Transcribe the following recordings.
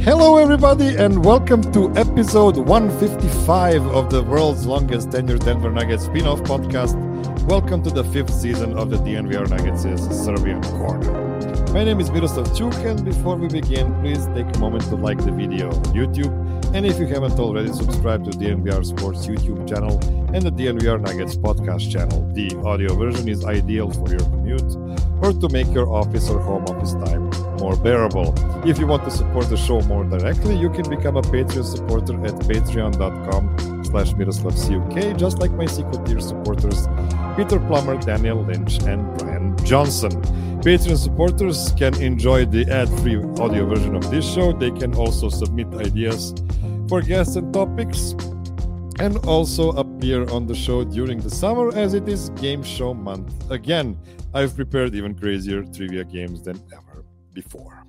Hello, everybody, and welcome to episode 155 of the world's longest tenured Denver Nuggets spin-off podcast. Welcome to the fifth season of the DNVR Nuggets' Serbian Corner. My name is Miroslav Čuk, and before we begin, please take a moment to like the video on YouTube. And if you haven't already, subscribe to DNVR Sports YouTube channel and the DNVR Nuggets podcast channel. The audio version is ideal for your commute or to make your office or home office time more bearable. If you want to support the show more directly, you can become a Patreon supporter at patreon.com/MiroslavCuk, just like my secret tier supporters Peter Plummer, Daniel Lynch, and Brian Johnson. Patreon supporters can enjoy the ad-free audio version of this show. They can also submit ideas for guests and topics, and also appear on the show during the summer as it is game show month. Again, I've prepared even crazier trivia games than ever before.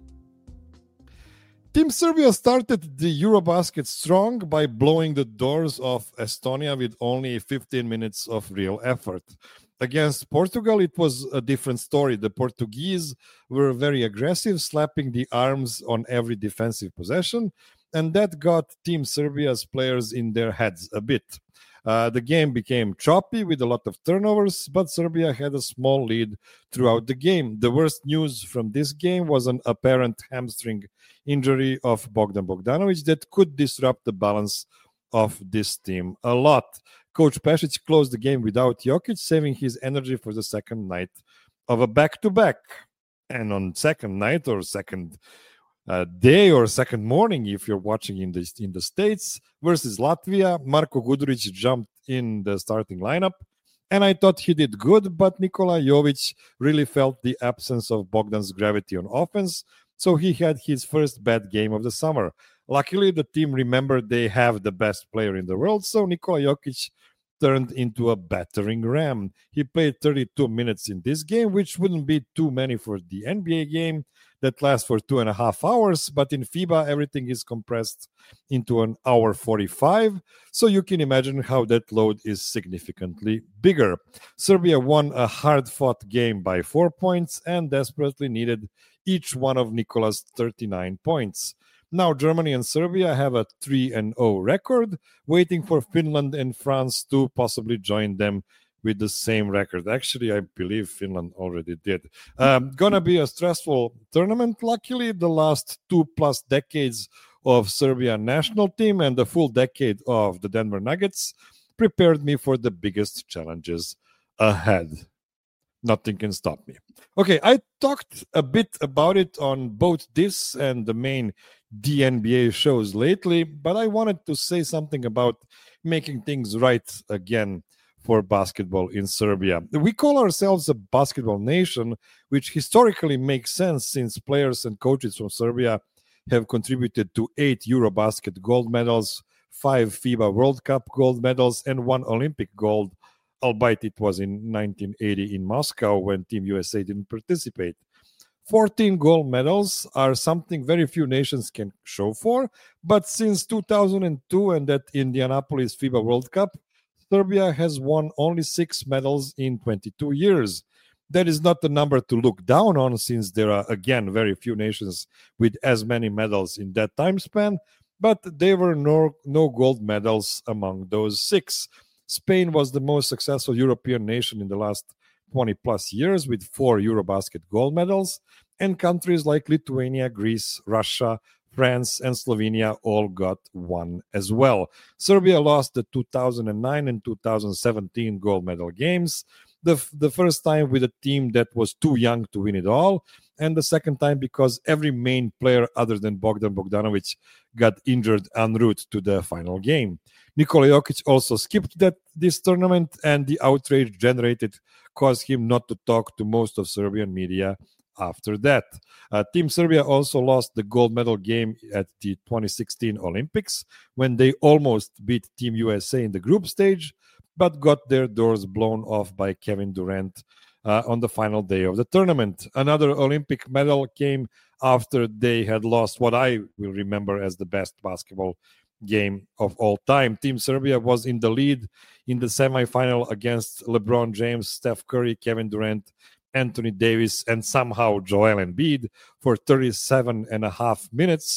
Team Serbia started the Eurobasket strong by blowing the doors off Estonia with only 15 minutes of real effort. Against Portugal, it was a different story. The Portuguese were very aggressive, slapping the arms on every defensive possession, and that got Team Serbia's players in their heads a bit. The game became choppy with a lot of turnovers, but Serbia had a small lead throughout the game. The worst news from this game was an apparent hamstring injury of Bogdan Bogdanovic that could disrupt the balance of this team a lot. Coach Pešić closed the game without Jokic, saving his energy for the second night of a back-to-back. And on second night or second day or second morning, if you're watching in the States, versus Latvia, Marko Gudurić jumped in the starting lineup, and I thought he did good, but Nikola Jovic really felt the absence of Bogdan's gravity on offense, so he had his first bad game of the summer. Luckily, the team remembered they have the best player in the world, so Nikola Jokic turned into a battering ram. He played 32 minutes in this game, which wouldn't be too many for the NBA game that lasts for 2.5 hours, but in FIBA, everything is compressed into an hour 45, so you can imagine how that load is significantly bigger. Serbia won a hard-fought game by 4 points and desperately needed each one of Nikola's 39 points. Now Germany and Serbia have a 3-0 record, waiting for Finland and France to possibly join them with the same record. Actually, I believe Finland already did. Gonna be a stressful tournament. Luckily, the last 2+ decades of Serbia national team and the full decade of the Denver Nuggets prepared me for the biggest challenges ahead. Nothing can stop me. Okay, I talked a bit about it on both this and the main DNBA shows lately, but I wanted to say something about making things right again for basketball in Serbia. We call ourselves a basketball nation, which historically makes sense since players and coaches from Serbia have contributed to 8 Eurobasket gold medals, 5 FIBA World Cup gold medals, and 1 Olympic gold, albeit it was in 1980 in Moscow when Team USA didn't participate. 14 gold medals are something very few nations can show for, but since 2002 and that Indianapolis FIBA World Cup, Serbia has won only 6 medals in 22 years. That is not the number to look down on, since there are, again, very few nations with as many medals in that time span, but there were no gold medals among those 6. Spain was the most successful European nation in the last 20+ years with 4 Eurobasket gold medals, and countries like Lithuania, Greece, Russia, France, and Slovenia all got 1 as well. Serbia lost the 2009 and 2017 gold medal games, the first time with a team that was too young to win it all, and the second time because every main player other than Bogdan Bogdanovic got injured en route to the final game. Nikola Jokic also skipped this tournament, and the outrage generated caused him not to talk to most of Serbian media after that. Team Serbia also lost the gold medal game at the 2016 Olympics when they almost beat Team USA in the group stage, but got their doors blown off by Kevin Durant on the final day of the tournament. Another Olympic medal came after they had lost what I will remember as the best basketball game of all time. Team Serbia was in the lead in the semifinal against LeBron James, Steph Curry, Kevin Durant, Anthony Davis, and somehow Joel Embiid for 37.5 minutes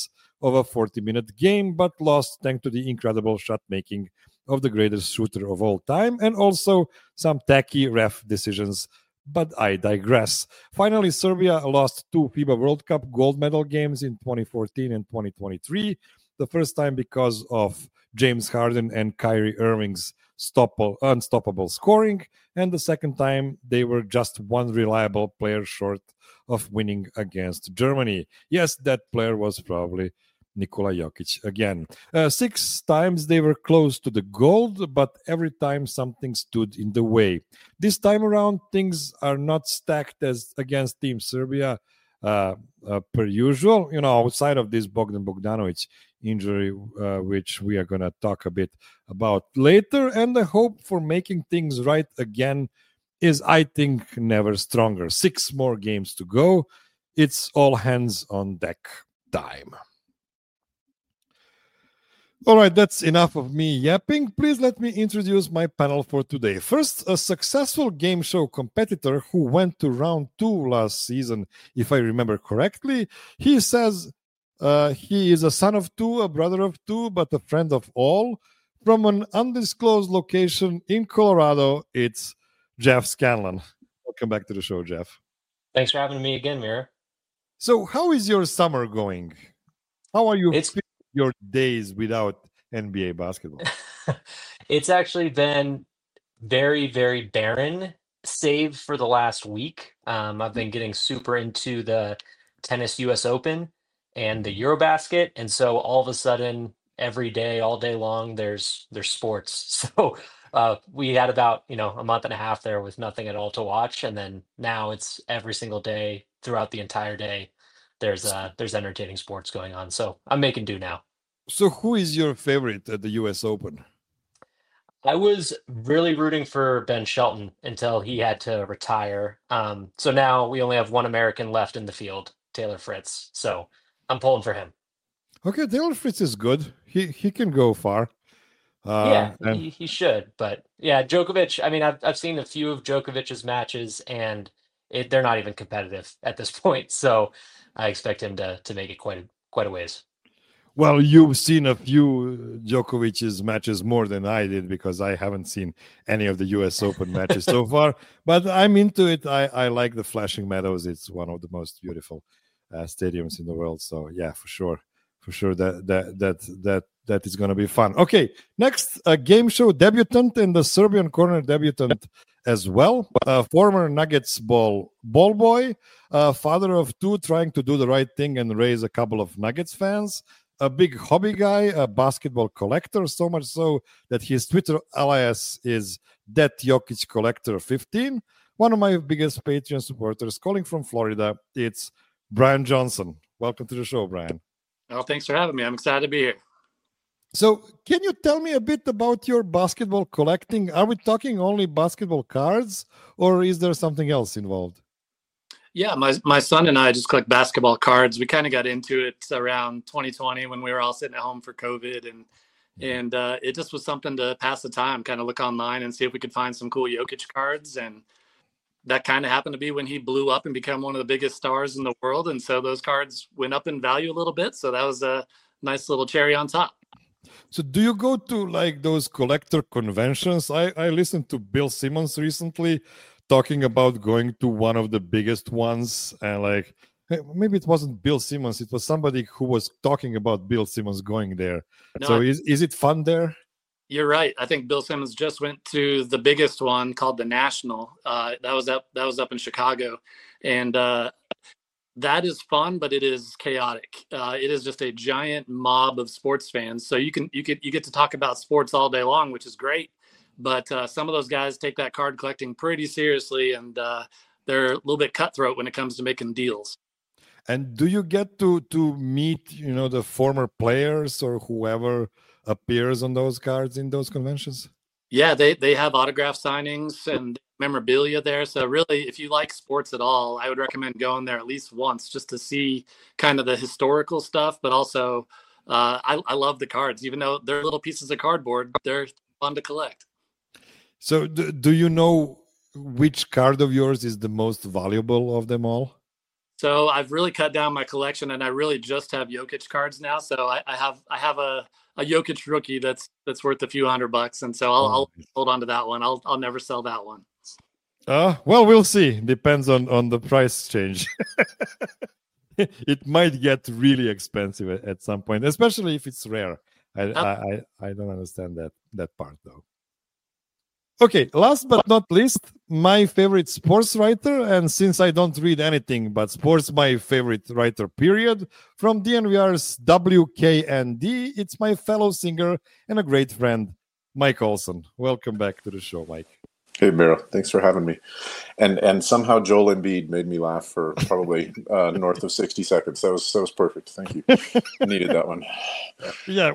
of a 40-minute game, but lost thanks to the incredible shot making of the greatest shooter of all time, and also some tacky ref decisions. But I digress. Finally, Serbia lost 2 FIBA World Cup gold medal games in 2014 and 2023. The first time because of James Harden and Kyrie Irving's unstoppable scoring, and the second time they were just one reliable player short of winning against Germany. Yes, that player was probably Nikola Jokic again. 6 times they were close to the gold, but every time something stood in the way. This time around, things are not stacked as against Team Serbia per usual. Outside of this Bogdan Bogdanovic injury, which we are going to talk a bit about later, and the hope for making things right again is, I think, never stronger. 6 more games to go. It's all hands on deck time. All right, that's enough of me yapping. Please let me introduce my panel for today. First, a successful game show competitor who went to round 2 last season, if I remember correctly. He says he is a son of 2, a brother of 2, but a friend of all. From an undisclosed location in Colorado, it's Jeff Scanlon. Welcome back to the show, Jeff. Thanks for having me again, Mira. So how is your summer going? How are you feeling your days without NBA basketball? It's actually been very, very barren, save for the last week. I've been getting super into the tennis US Open and the Eurobasket. And so all of a sudden, every day, all day long, there's sports. So we had about, a month and a half there with nothing at all to watch. And then now it's every single day throughout the entire day. There's entertaining sports going on. So I'm making do now. So who is your favorite at the US Open? I was really rooting for Ben Shelton until he had to retire. So now we only have one American left in the field, Taylor Fritz. So I'm pulling for him. Okay, Taylor Fritz is good. He can go far. He should. But yeah, Djokovic. I mean, I've seen a few of Djokovic's matches, and they're not even competitive at this point. So I expect him to make it quite a ways. Well, you've seen a few Djokovic's matches more than I did, because I haven't seen any of the US Open matches so far. But I'm into it. I like the Flashing Meadows. It's one of the most beautiful stadiums in the world. So yeah, for sure that is going to be fun. Okay, next, a game show debutant and the Serbian corner debutant as well. Former Nuggets ball boy, father of 2, trying to do the right thing and raise a couple of Nuggets fans. A big hobby guy, a basketball collector, so much so that his Twitter alias is That Jokic Collector 15. One of my biggest Patreon supporters, calling from Florida, it's Brian Johnson. Welcome to the show, Brian. Oh, thanks for having me. I'm excited to be here. So can you tell me a bit about your basketball collecting? Are we talking only basketball cards, or is there something else involved? Yeah, my son and I just collect basketball cards. We kind of got into it around 2020 when we were all sitting at home for COVID, and it just was something to pass the time, kind of look online and see if we could find some cool Jokic cards. And that kind of happened to be when he blew up and became one of the biggest stars in the world. And so those cards went up in value a little bit. So that was a nice little cherry on top. So do you go to like those collector conventions? I listened to Bill Simmons recently talking about going to one of the biggest ones, and like, maybe it wasn't Bill Simmons, it was somebody who was talking about Bill Simmons going there. No, so is it fun there? You're right. I think Bill Simmons just went to the biggest one called the National. That was up in Chicago, and that is fun, but it is chaotic. It is just a giant mob of sports fans. So you get to talk about sports all day long, which is great. But some of those guys take that card collecting pretty seriously, and they're a little bit cutthroat when it comes to making deals. And do you get to meet, the former players or whoever appears on those cards in those conventions? Yeah, they have autograph signings and memorabilia there. So really, if you like sports at all, I would recommend going there at least once just to see kind of the historical stuff. But also, I love the cards. Even though they're little pieces of cardboard, they're fun to collect. So do you know which card of yours is the most valuable of them all? So I've really cut down my collection, and I really just have Jokic cards now. So I have a Jokic rookie that's worth a few $100, and so I'll hold on to that one. I'll never sell that one. Well, we'll see. Depends on the price change. It might get really expensive at some point, especially if it's rare. I don't understand that part though. Okay, last but not least, my favorite sports writer, and since I don't read anything but sports, my favorite writer, period, from DNVR's WKND, it's my fellow singer and a great friend, Mike Olson. Welcome back to the show, Mike. Hey, Miro. Thanks for having me. And somehow Joel Embiid made me laugh for probably north of 60 seconds. That was perfect. Thank you. I needed that one. Yeah,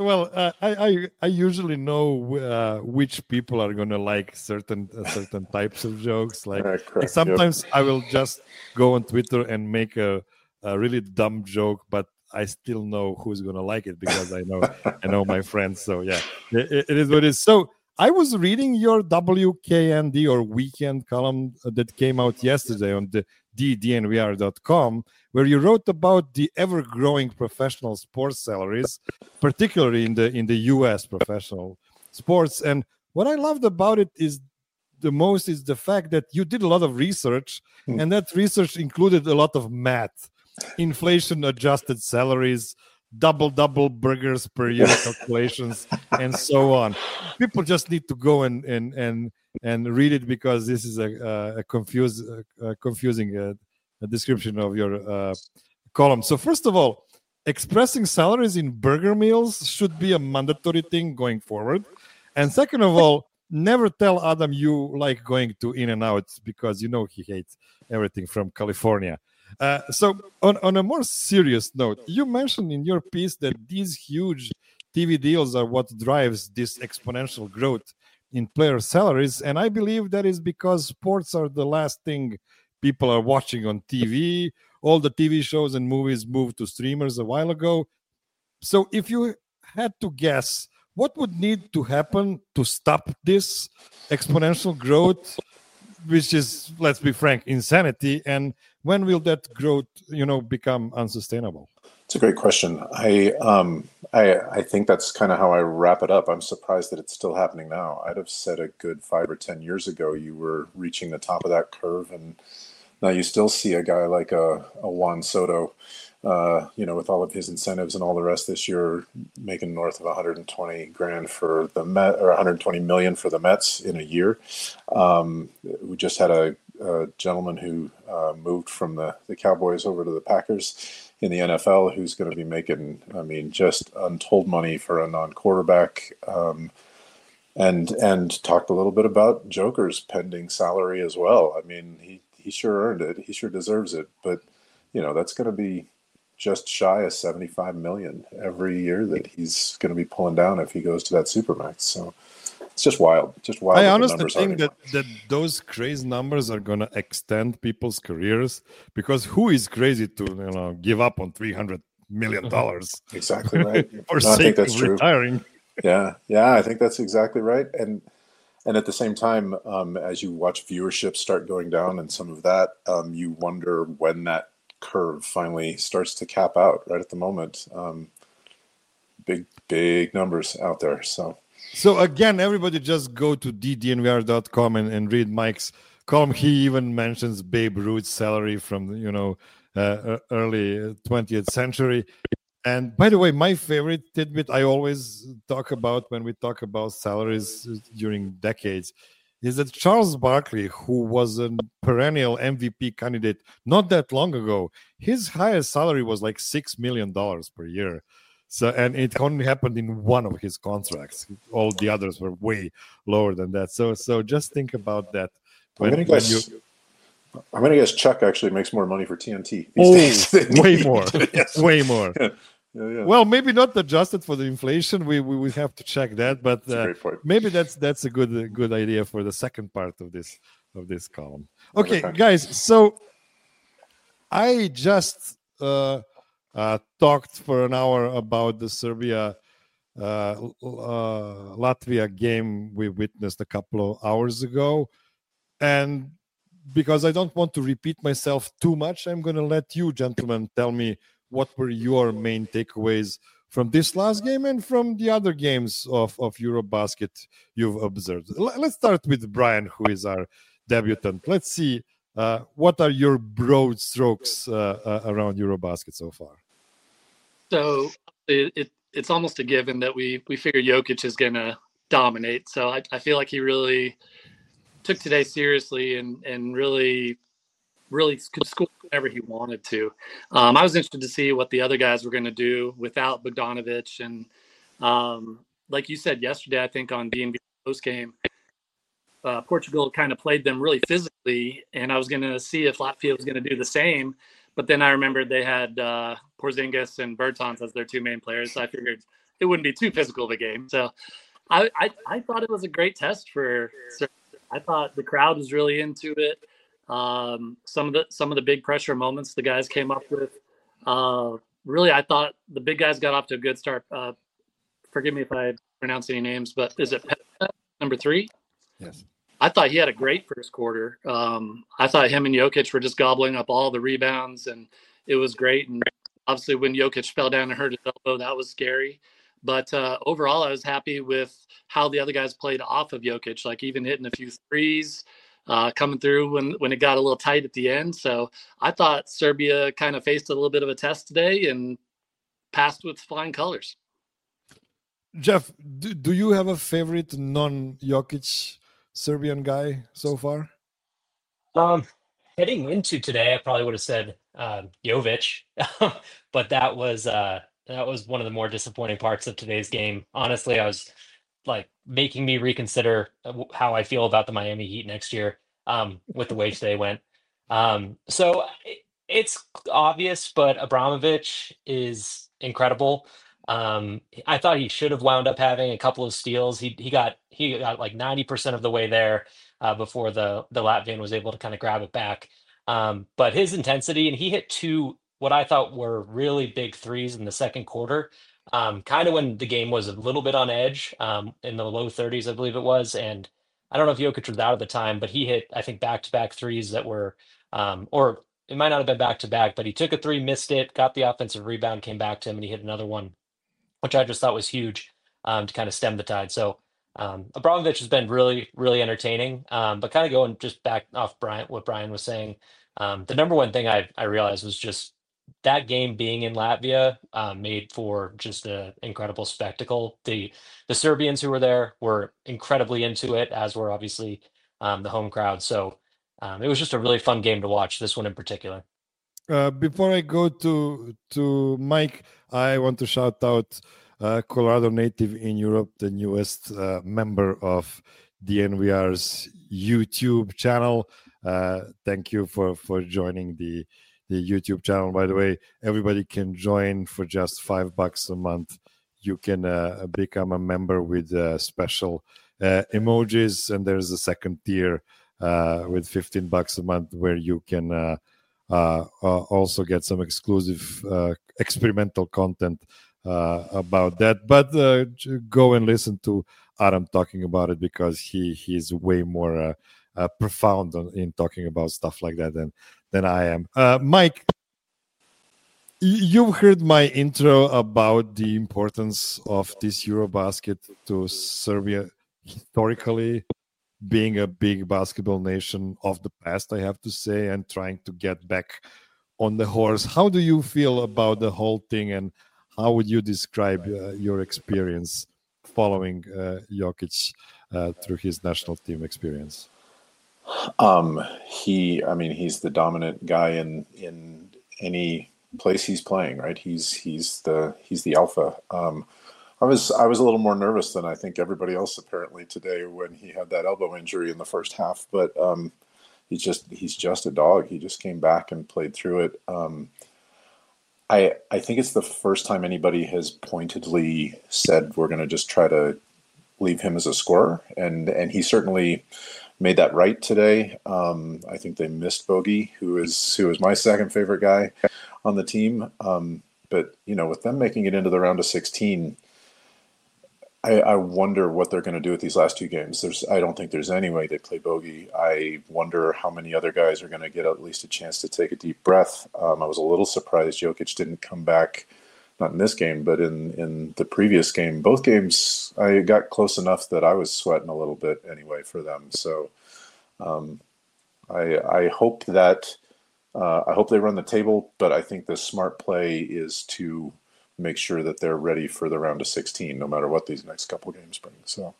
I usually know which people are going to like certain types of jokes. Like sometimes I will just go on Twitter and make a really dumb joke, but I still know who's going to like it because I know my friends. So yeah, it is what it is. So I was reading your WKND or weekend column that came out yesterday on the DNVR.com, where you wrote about the ever-growing professional sports salaries, particularly in the U.S. professional sports. And what I loved about it is the fact that you did a lot of research, and that research included a lot of math, inflation-adjusted salaries, double burgers per year calculations, and so on. People just need to go and read it because this is a confusing description of your column. So first of all, expressing salaries in burger meals should be a mandatory thing going forward. And second of all, never tell Adam you like going to In-N-Out because you know he hates everything from California. So on a more serious note, you mentioned in your piece that these huge TV deals are what drives this exponential growth in player salaries. And I believe that is because sports are the last thing people are watching on TV. All the TV shows and movies moved to streamers a while ago. So if you had to guess, what would need to happen to stop this exponential growth, which is, let's be frank, insanity, and when will that growth, become unsustainable? It's a great question. I think that's kind of how I wrap it up. I'm surprised that it's still happening now. I'd have said a good 5 or 10 years ago you were reaching the top of that curve, and now you still see a guy like a Juan Soto, with all of his incentives and all the rest this year, making north of 120 grand for the Met, or 120 million for the Mets in a year. We just had a gentleman who moved from the Cowboys over to the Packers in the NFL, who's going to be making, just untold money for a non-quarterback. And talked a little bit about Joker's pending salary as well. He sure earned it. He sure deserves it. But, that's going to be just shy of 75 million every year that he's going to be pulling down if he goes to that Supermax. So it's just wild. I honestly think that those crazy numbers are going to extend people's careers, because who is crazy to give up on $300 million? Exactly right. For sake of retiring. Yeah, I think that's exactly right. And at the same time, as you watch viewership start going down and some of that, you wonder when that curve finally starts to cap out. Right at the moment, big numbers out there. So again, everybody just go to DNVR.com and read Mike's column. He even mentions Babe Ruth's salary from early 20th century. And by the way, my favorite tidbit I always talk about when we talk about salaries during decades is that Charles Barkley, who was a perennial MVP candidate not that long ago, his highest salary was like $6 million per year. So, and it only happened in one of his contracts. All the others were way lower than that. So just think about that. I'm going to guess Chuck actually makes more money for TNT these days. Way more. Yes. Way more. Yeah. Well, maybe not adjusted for the inflation. We have to check that, but maybe that's a good idea for the second part of this column. Okay, guys. So I just talked for an hour about the Serbia Latvia game we witnessed a couple of hours ago, and because I don't want to repeat myself too much, I'm going to let you gentlemen tell me what were your main takeaways from this last game and from the other games of Eurobasket you've observed. Let's start with Brian, who is our debutant. Let's see, what are your broad strokes around Eurobasket so far? So it's almost a given that we figure Jokic is going to dominate. So I feel like he really took today seriously and really could score whenever he wanted to. I was interested to see what the other guys were going to do without Bogdanovic. And like you said yesterday, I think on B&B post game, Portugal kind of played them really physically, and I was going to see if Latvia was going to do the same. But then I remembered they had Porzingis and Bertans as their two main players, so I figured it wouldn't be too physical of a game. So I thought it was a great test for Serbia. I thought the crowd was really into it. Some of the big pressure moments the guys came up with. Really, I thought the big guys got off to a good start. Forgive me if I pronounce any names, but is it Peta, number 3? Yes. I thought he had a great first quarter. I thought him and Jokic were just gobbling up all the rebounds, and it was great. And obviously, when Jokic fell down and hurt his elbow, that was scary. But overall, I was happy with how the other guys played off of Jokic, like even hitting a few threes, coming through when it got a little tight at the end. So I thought Serbia kind of faced a little bit of a test today and passed with flying colors. Jeff, do you have a favorite non-Jokic Serbian guy so far? Heading into today, I probably would have said Jovic, but that was one of the more disappointing parts of today's game. Honestly, I was like making me reconsider how I feel about the Miami Heat next year with the way today went. So it's obvious, but Abramovich is incredible. I thought he should have wound up having a couple of steals. He got like 90% of the way there before the Latvian was able to kind of grab it back. But his intensity, and he hit 2 what I thought were really big threes in the second quarter, kind of when the game was a little bit on edge, in the low 30s, I believe it was. And I don't know if Jokic was out at the time, but he hit, I think, back-to-back threes that were, or it might not have been back-to-back, but he took a 3, missed it, got the offensive rebound, came back to him, and he hit another one, which I just thought was huge to kind of stem the tide. So Abramovich has been really, really entertaining. But kind of going just back off what Brian was saying, the number one thing I realized was just that game being in Latvia made for just an incredible spectacle. The Serbians who were there were incredibly into it, as were obviously the home crowd. So it was just a really fun game to watch, this one in particular. Before I go to Mike, I want to shout out Colorado Native in Europe, the newest member of DNVR's YouTube channel. Thank you for joining the YouTube channel. By the way, everybody can join for just $5 a month. You can become a member with special emojis, and there's a second tier with $15 a month where you can also get some exclusive experimental content about that. But go and listen to Adam talking about it, because he's way more profound in talking about stuff like that than I am. Mike, you've heard my intro about the importance of this Eurobasket to Serbia historically, being a big basketball nation of the past, I have to say, and trying to get back on the horse. How do you feel about the whole thing, and how would you describe your experience following Jokic through his national team experience? He's the dominant guy in any place he's playing, right? He's the alpha. I was a little more nervous than I think everybody else apparently today when he had that elbow injury in the first half, but he's just a dog. He just came back and played through it. I think it's the first time anybody has pointedly said we're going to just try to leave him as a scorer, and he certainly made that right today. I think they missed Bogey, who is my second favorite guy on the team. But with them making it into the round of 16, I wonder what they're going to do with these last two games. I don't think there's any way they play bogey. I wonder how many other guys are going to get at least a chance to take a deep breath. I was a little surprised Jokic didn't come back, not in this game, but in the previous game. Both games, I got close enough that I was sweating a little bit anyway for them. So I hope that I hope they run the table, but I think the smart play is to make sure that they're ready for the round of 16, no matter what these next couple games bring. So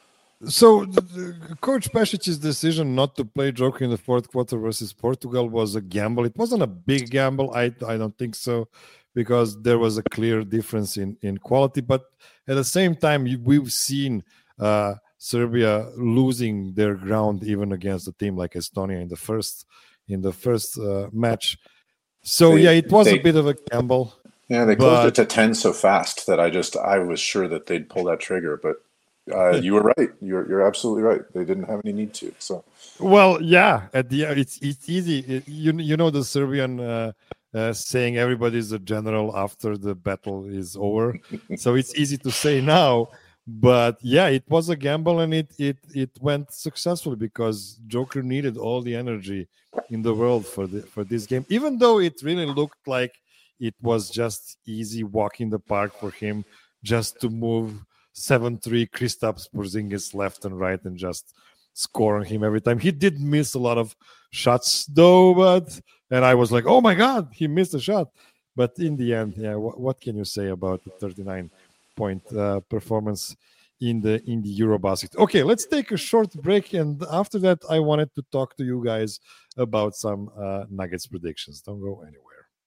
Coach Pešic's decision not to play Joker in the fourth quarter versus Portugal was a gamble. It wasn't a big gamble. I don't think so, because there was a clear difference in quality. But at the same time, we've seen Serbia losing their ground even against a team like Estonia in the first match. So it was a bit of a gamble. Yeah, they closed it to 10 so fast that I was sure that they'd pull that trigger. But you were right. You're absolutely right. They didn't have any need to. So, well, yeah, at the it's easy. You know the Serbian saying, everybody's a general after the battle is over. So it's easy to say now. But yeah, it was a gamble, and it went successfully because Joker needed all the energy in the world for this game, even though it really looked like it was just easy walk in the park for him, just to move 7-3 Kristaps Porzingis left and right and just score on him every time. He did miss a lot of shots though, and I was like, oh my God, he missed a shot. But in the end, yeah, what can you say about the 39-point performance in the Eurobasket? Okay, let's take a short break, and after that, I wanted to talk to you guys about some Nuggets predictions. Don't go anywhere.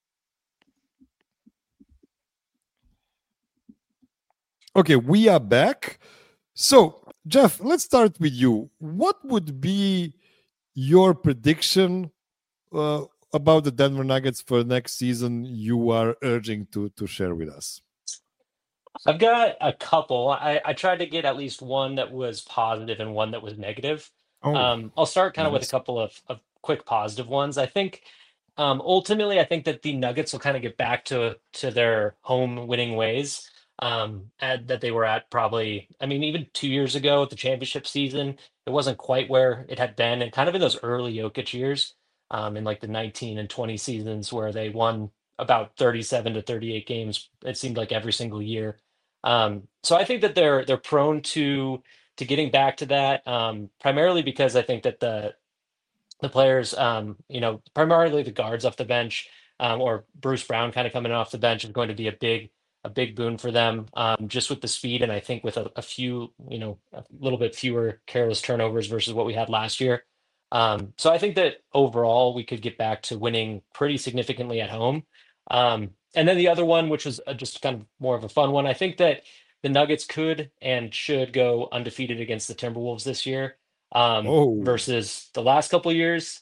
Okay, we are back. So, Jeff, let's start with you. What would be your prediction about the Denver Nuggets for next season you are urging to share with us? I've got a couple. I tried to get at least one that was positive and one that was negative. I'll start kind of with a couple of quick positive ones. I think ultimately, I think that the Nuggets will kind of get back to their home winning ways that they were at probably, I mean, even 2 years ago at the championship season, it wasn't quite where it had been. And kind of in those early Jokic years, in like the 19 and 20 seasons where they won about 37 to 38 games, it seemed like every single year. So I think that they're prone to getting back to that, primarily because I think that the players, primarily the guards off the bench, or Bruce Brown kind of coming off the bench is going to be a big boon for them, just with the speed, and I think with a few, a little bit fewer careless turnovers versus what we had last year. So I think that overall we could get back to winning pretty significantly at home. And then the other one, which was just kind of more of a fun one, I think that the Nuggets could and should go undefeated against the Timberwolves this year, versus the last couple of years.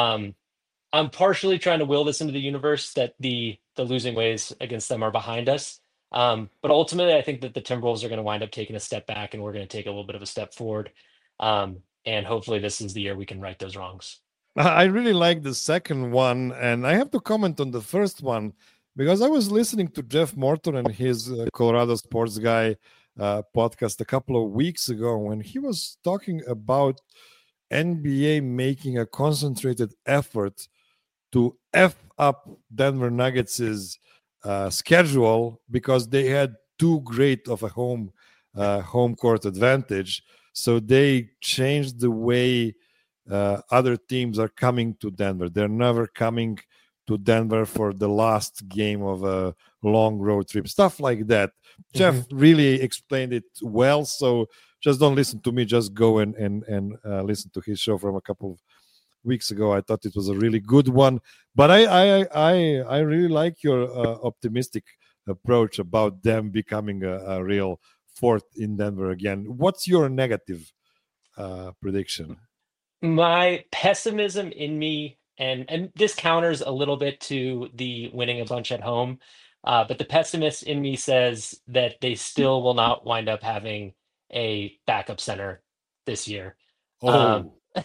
I'm partially trying to will this into the universe that the losing ways against them are behind us. But ultimately, I think that the Timberwolves are going to wind up taking a step back, and we're going to take a little bit of a step forward. And hopefully, this is the year we can right those wrongs. I really like the second one, and I have to comment on the first one because I was listening to Jeff Morton and his Colorado Sports Guy podcast a couple of weeks ago when he was talking about NBA making a concentrated effort to F up Denver Nuggets' schedule because they had too great of a home court advantage. So they changed the way other teams are coming to Denver. They're never coming to Denver for the last game of a long road trip, stuff like that. Mm-hmm. Jeff really explained it well. So just don't listen to me. Just go and listen to his show from a couple of weeks ago. I thought it was a really good one. But I really like your optimistic approach about them becoming a real fourth in Denver again. What's your negative prediction? My pessimism in me, and this counters a little bit to the winning a bunch at home, but the pessimist in me says that they still will not wind up having a backup center this year. I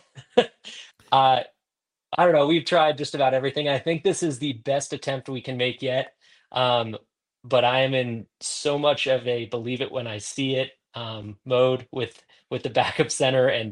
don't know. We've tried just about everything. I think this is the best attempt we can make yet. But I am in so much of a believe it when I see it mode with the backup center and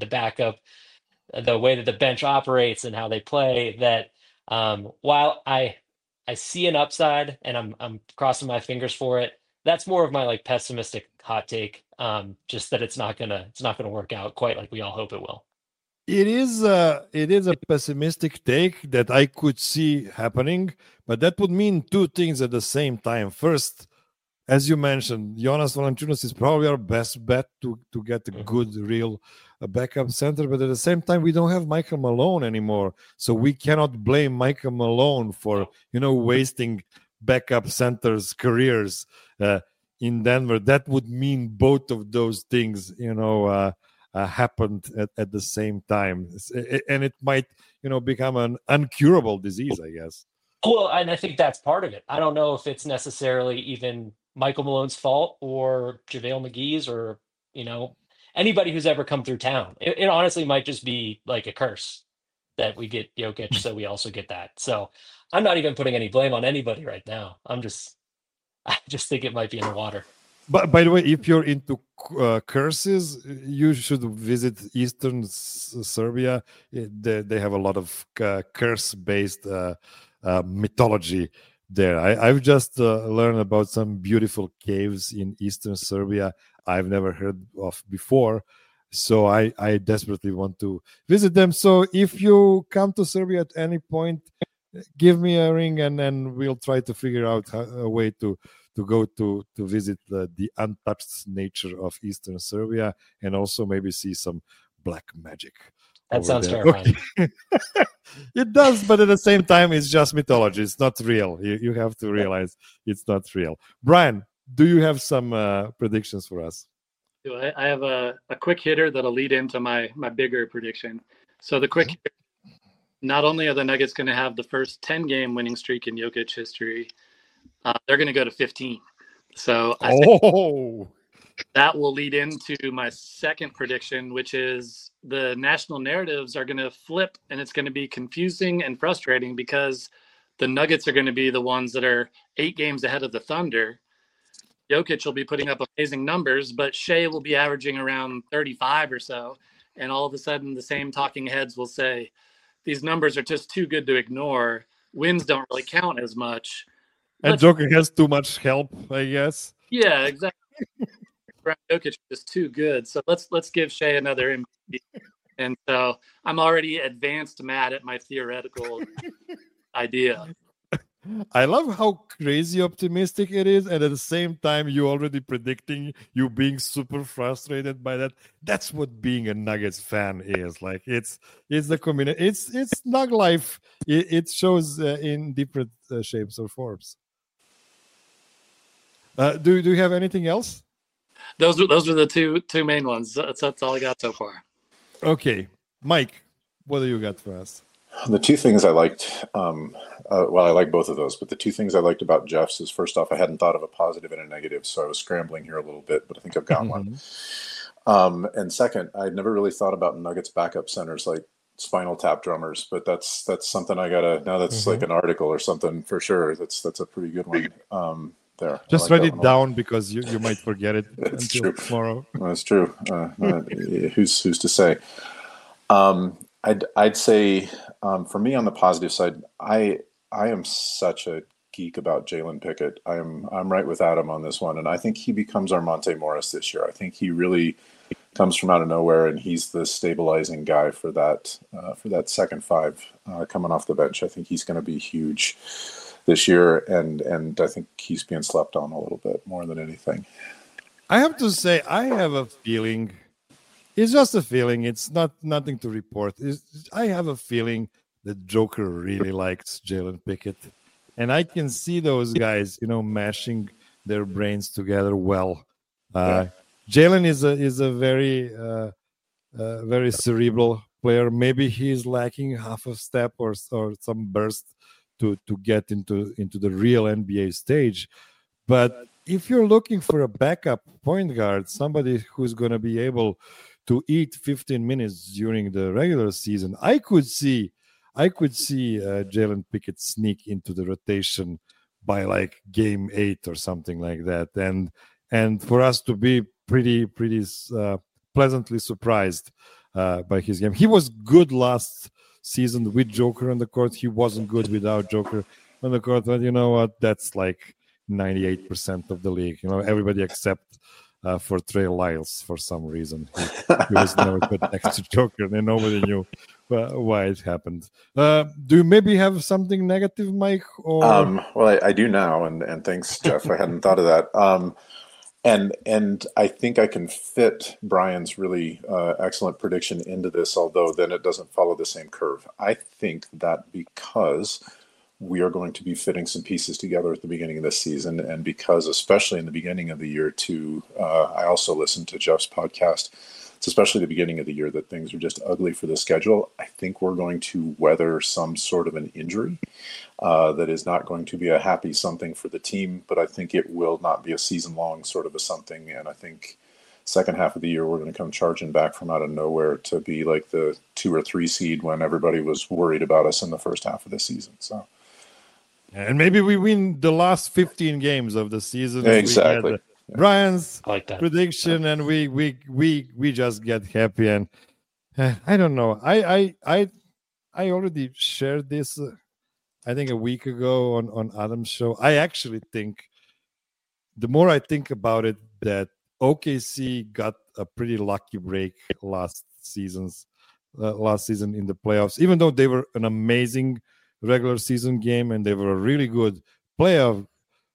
the way that the bench operates and how they play. That while I see an upside and I'm crossing my fingers for it, that's more of my like pessimistic hot take. Just that it's not gonna work out quite like we all hope it will. It is a pessimistic take that I could see happening, but that would mean two things at the same time. First, as you mentioned, Jonas Valanciunas is probably our best bet to get a good, real backup center. But at the same time, we don't have Michael Malone anymore, so we cannot blame Michael Malone for wasting backup centers' careers in Denver. That would mean both of those things, happened at the same time, and it might become an uncurable disease, I guess. Well, and I think that's part of it. I don't know if it's necessarily even Michael Malone's fault or JaVale McGee's or anybody who's ever come through town. It honestly might just be like a curse that we get Jokic, so we also get that. So I'm not even putting any blame on anybody right now. I just think it might be in the water. But by the way, if you're into curses, you should visit Eastern Serbia. They have a lot of curse-based mythology there. I've just learned about some beautiful caves in Eastern Serbia I've never heard of before. So I desperately want to visit them. So if you come to Serbia at any point, give me a ring and then we'll try to figure out a way to go to visit the untouched nature of Eastern Serbia and also maybe see some black magic. That sounds terrifying. Okay. It does, but at the same time, it's just mythology. It's not real. You have to realize it's not real. Brian, do you have some predictions for us? I have a quick hitter that'll lead into my bigger prediction. So the quick hitter, not only are the Nuggets going to have the first 10-game winning streak in Jokic history, they're going to go to 15. So I think that will lead into my second prediction, which is the national narratives are going to flip, and it's going to be confusing and frustrating because the Nuggets are going to be the ones that are 8 games ahead of the Thunder. Jokic will be putting up amazing numbers, but Shea will be averaging around 35 or so. And all of a sudden, the same talking heads will say, these numbers are just too good to ignore. Wins don't really count as much. And Joker has too much help, I guess. Yeah, exactly. Jokic is just too good. So let's give Shea another MVP. And so I'm already advanced mad at my theoretical idea. I love how crazy optimistic it is, and at the same time, you already predicting you being super frustrated by that. That's what being a Nuggets fan is like. It's the combination. It's Nug life. It shows in different shapes or forms. Do you have anything else? Those are the two main ones. That's all I got so far. Okay, Mike, what do you got for us? The two things I liked, I like both of those, but the two things I liked about Jeff's is, first off, I hadn't thought of a positive and a negative, so I was scrambling here a little bit, but I think I've got one. And second, I'd never really thought about Nuggets backup centers like Spinal Tap drummers, but that's something I gotta, now that's like an article or something for sure. That's a pretty good one. There. Just write it down because you might forget it until tomorrow. That's true. Who's to say? I'd say for me on the positive side, I am such a geek about Jalen Pickett. I'm right with Adam on this one, and I think he becomes our Monte Morris this year. I think he really comes from out of nowhere, and he's the stabilizing guy for that second five coming off the bench. I think he's going to be huge this year, and I think he's being slept on a little bit more than anything. I have to say, I have a feeling. It's just a feeling. It's nothing to report. I have a feeling that Joker really likes Jalen Pickett, and I can see those guys, mashing their brains together well. Jalen is a very cerebral player. Maybe he's lacking half a step or some burst to get into the real NBA stage. But if you're looking for a backup point guard, somebody who's going to be able to eat 15 minutes during the regular season, I could see Jalen Pickett sneak into the rotation by like game 8 or something like that, and for us to be pretty pleasantly surprised by his game. He was good last season with Joker on the court. He wasn't good without Joker on the court. But you know what? That's like 98% of the league. You know, everybody except for Trey Lyles for some reason. He was never put next to Joker, and nobody knew why it happened. Do you maybe have something negative, Mike? Or well, I do now, and thanks, Jeff. I hadn't thought of that. And I think I can fit Brian's really excellent prediction into this, although then it doesn't follow the same curve. I think that because we are going to be fitting some pieces together at the beginning of this season, and because especially in the beginning of the year too, I also listened to Jeff's podcast. It's especially the beginning of the year that things are just ugly for the schedule. I think we're going to weather some sort of an injury that is not going to be a happy something for the team, but I think it will not be a season-long sort of a something. And I think second half of the year, we're going to come charging back from out of nowhere to be like the 2 or 3 seed when everybody was worried about us in the first half of the season. So, and maybe we win the last 15 games of the season. Exactly. Brian's like that prediction, and we just get happy. And I don't know. I already shared this. I think a week ago on Adam's show. I actually think the more I think about it, that OKC got a pretty lucky break last season in the playoffs. Even though they were an amazing regular season game and they were a really good playoff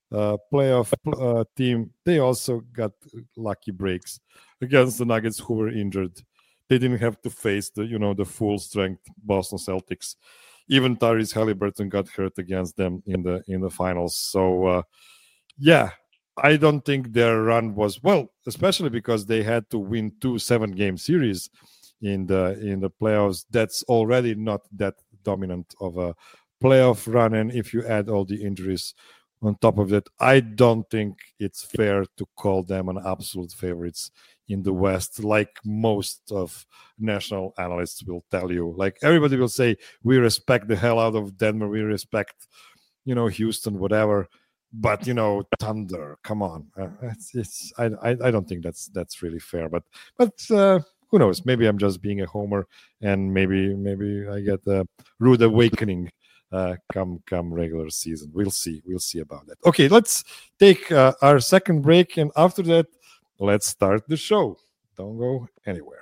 team, they also got lucky breaks against the Nuggets, who were injured. They didn't have to face the full strength Boston Celtics. Even Tyrese Halliburton got hurt against them in the finals. So I don't think their run was well, especially because they had to win 2 7-game series in the playoffs. That's already not that dominant of a playoff run, and if you add all the injuries on top of that, I don't think it's fair to call them an absolute favorites in the West, like most of national analysts will tell you. Like everybody will say, we respect the hell out of Denver, we respect, Houston, whatever. But Thunder, come on, I don't think that's really fair. But who knows? Maybe I'm just being a homer, and maybe I get a rude awakening come regular season. We'll see about that. Okay, let's take our second break, and after that, let's start the show. Don't go anywhere.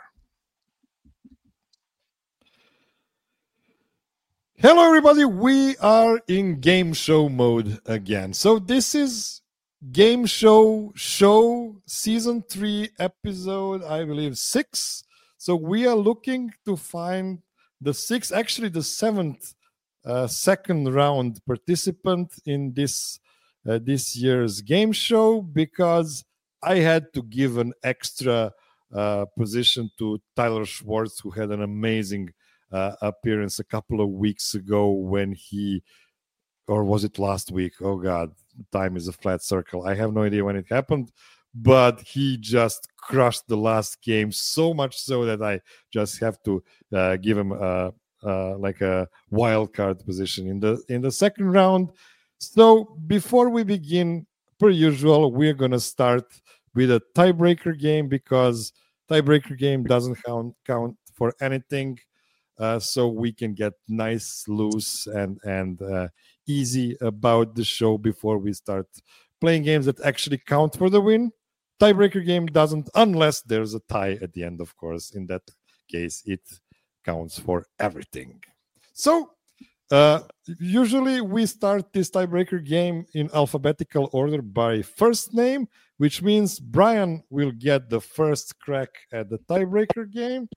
Hello, everybody. We are in game show mode again. So this is game show season 3 episode, I believe 6. So we are looking to find the 7th second round participant in this year's game show, because I had to give an extra position to Tyler Schwartz, who had an amazing appearance a couple of weeks ago when or was it last week? Oh God, time is a flat circle. I have no idea when it happened, but he just crushed the last game, so much so that I just have to give him like a wild card position in the second round. So before we begin, per usual, we're gonna start with a tiebreaker game, because tiebreaker game doesn't count for anything. So we can get nice, loose, and easy about the show before we start playing games that actually count for the win. Tiebreaker game doesn't, unless there's a tie at the end, of course. In that case, it counts for everything. So usually we start this tiebreaker game in alphabetical order by first name, which means Brian will get the first crack at the tiebreaker game.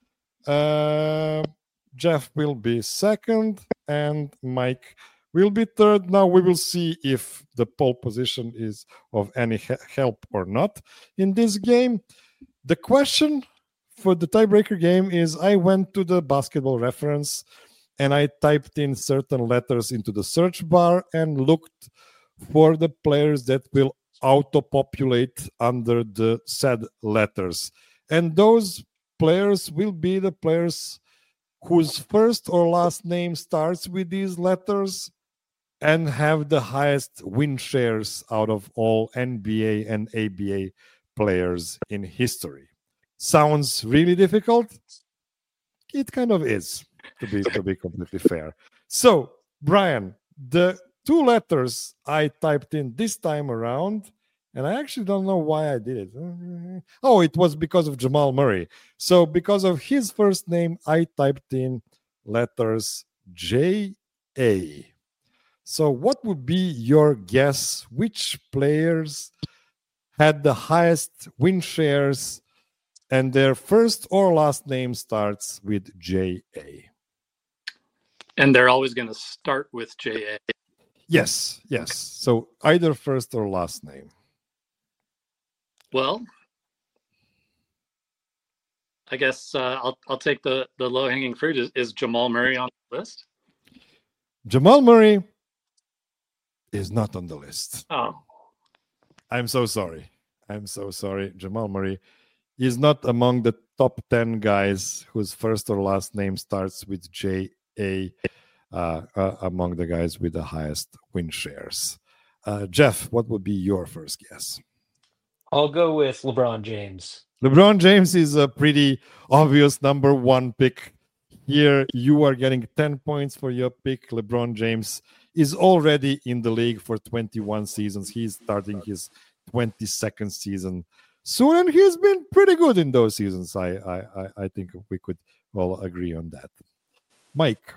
Jeff will be second, and Mike will be third. Now we will see if the pole position is of any help or not in this game. The question for the tiebreaker game is, I went to the Basketball Reference and I typed in certain letters into the search bar and looked for the players that will auto-populate under the said letters. And those players will be the players whose first or last name starts with these letters and have the highest win shares out of all NBA and ABA players in history. Sounds really difficult? It kind of is, to be completely fair. So, Brian, the 2 letters I typed in this time around, and I actually don't know why I did it. Oh, it was because of Jamal Murray. So, because of his first name, I typed in letters J-A. So, what would be your guess? Which players had the highest win shares and their first or last name starts with J-A? And they're always going to start with J-A. Yes. So either first or last name. Well, I guess I'll take the low-hanging fruit. Is Jamal Murray on the list? Jamal Murray is not on the list. Oh. I'm so sorry. Jamal Murray is not among the top 10 guys whose first or last name starts with J-A among the guys with the highest win shares. Jeff, what would be your first guess? I'll go with LeBron James. LeBron James is a pretty obvious number 1 pick. Here, you are getting 10 points for your pick. LeBron James is already in the league for 21 seasons. He's starting his 22nd season soon, and he's been pretty good in those seasons. I think we could all agree on that. Mike.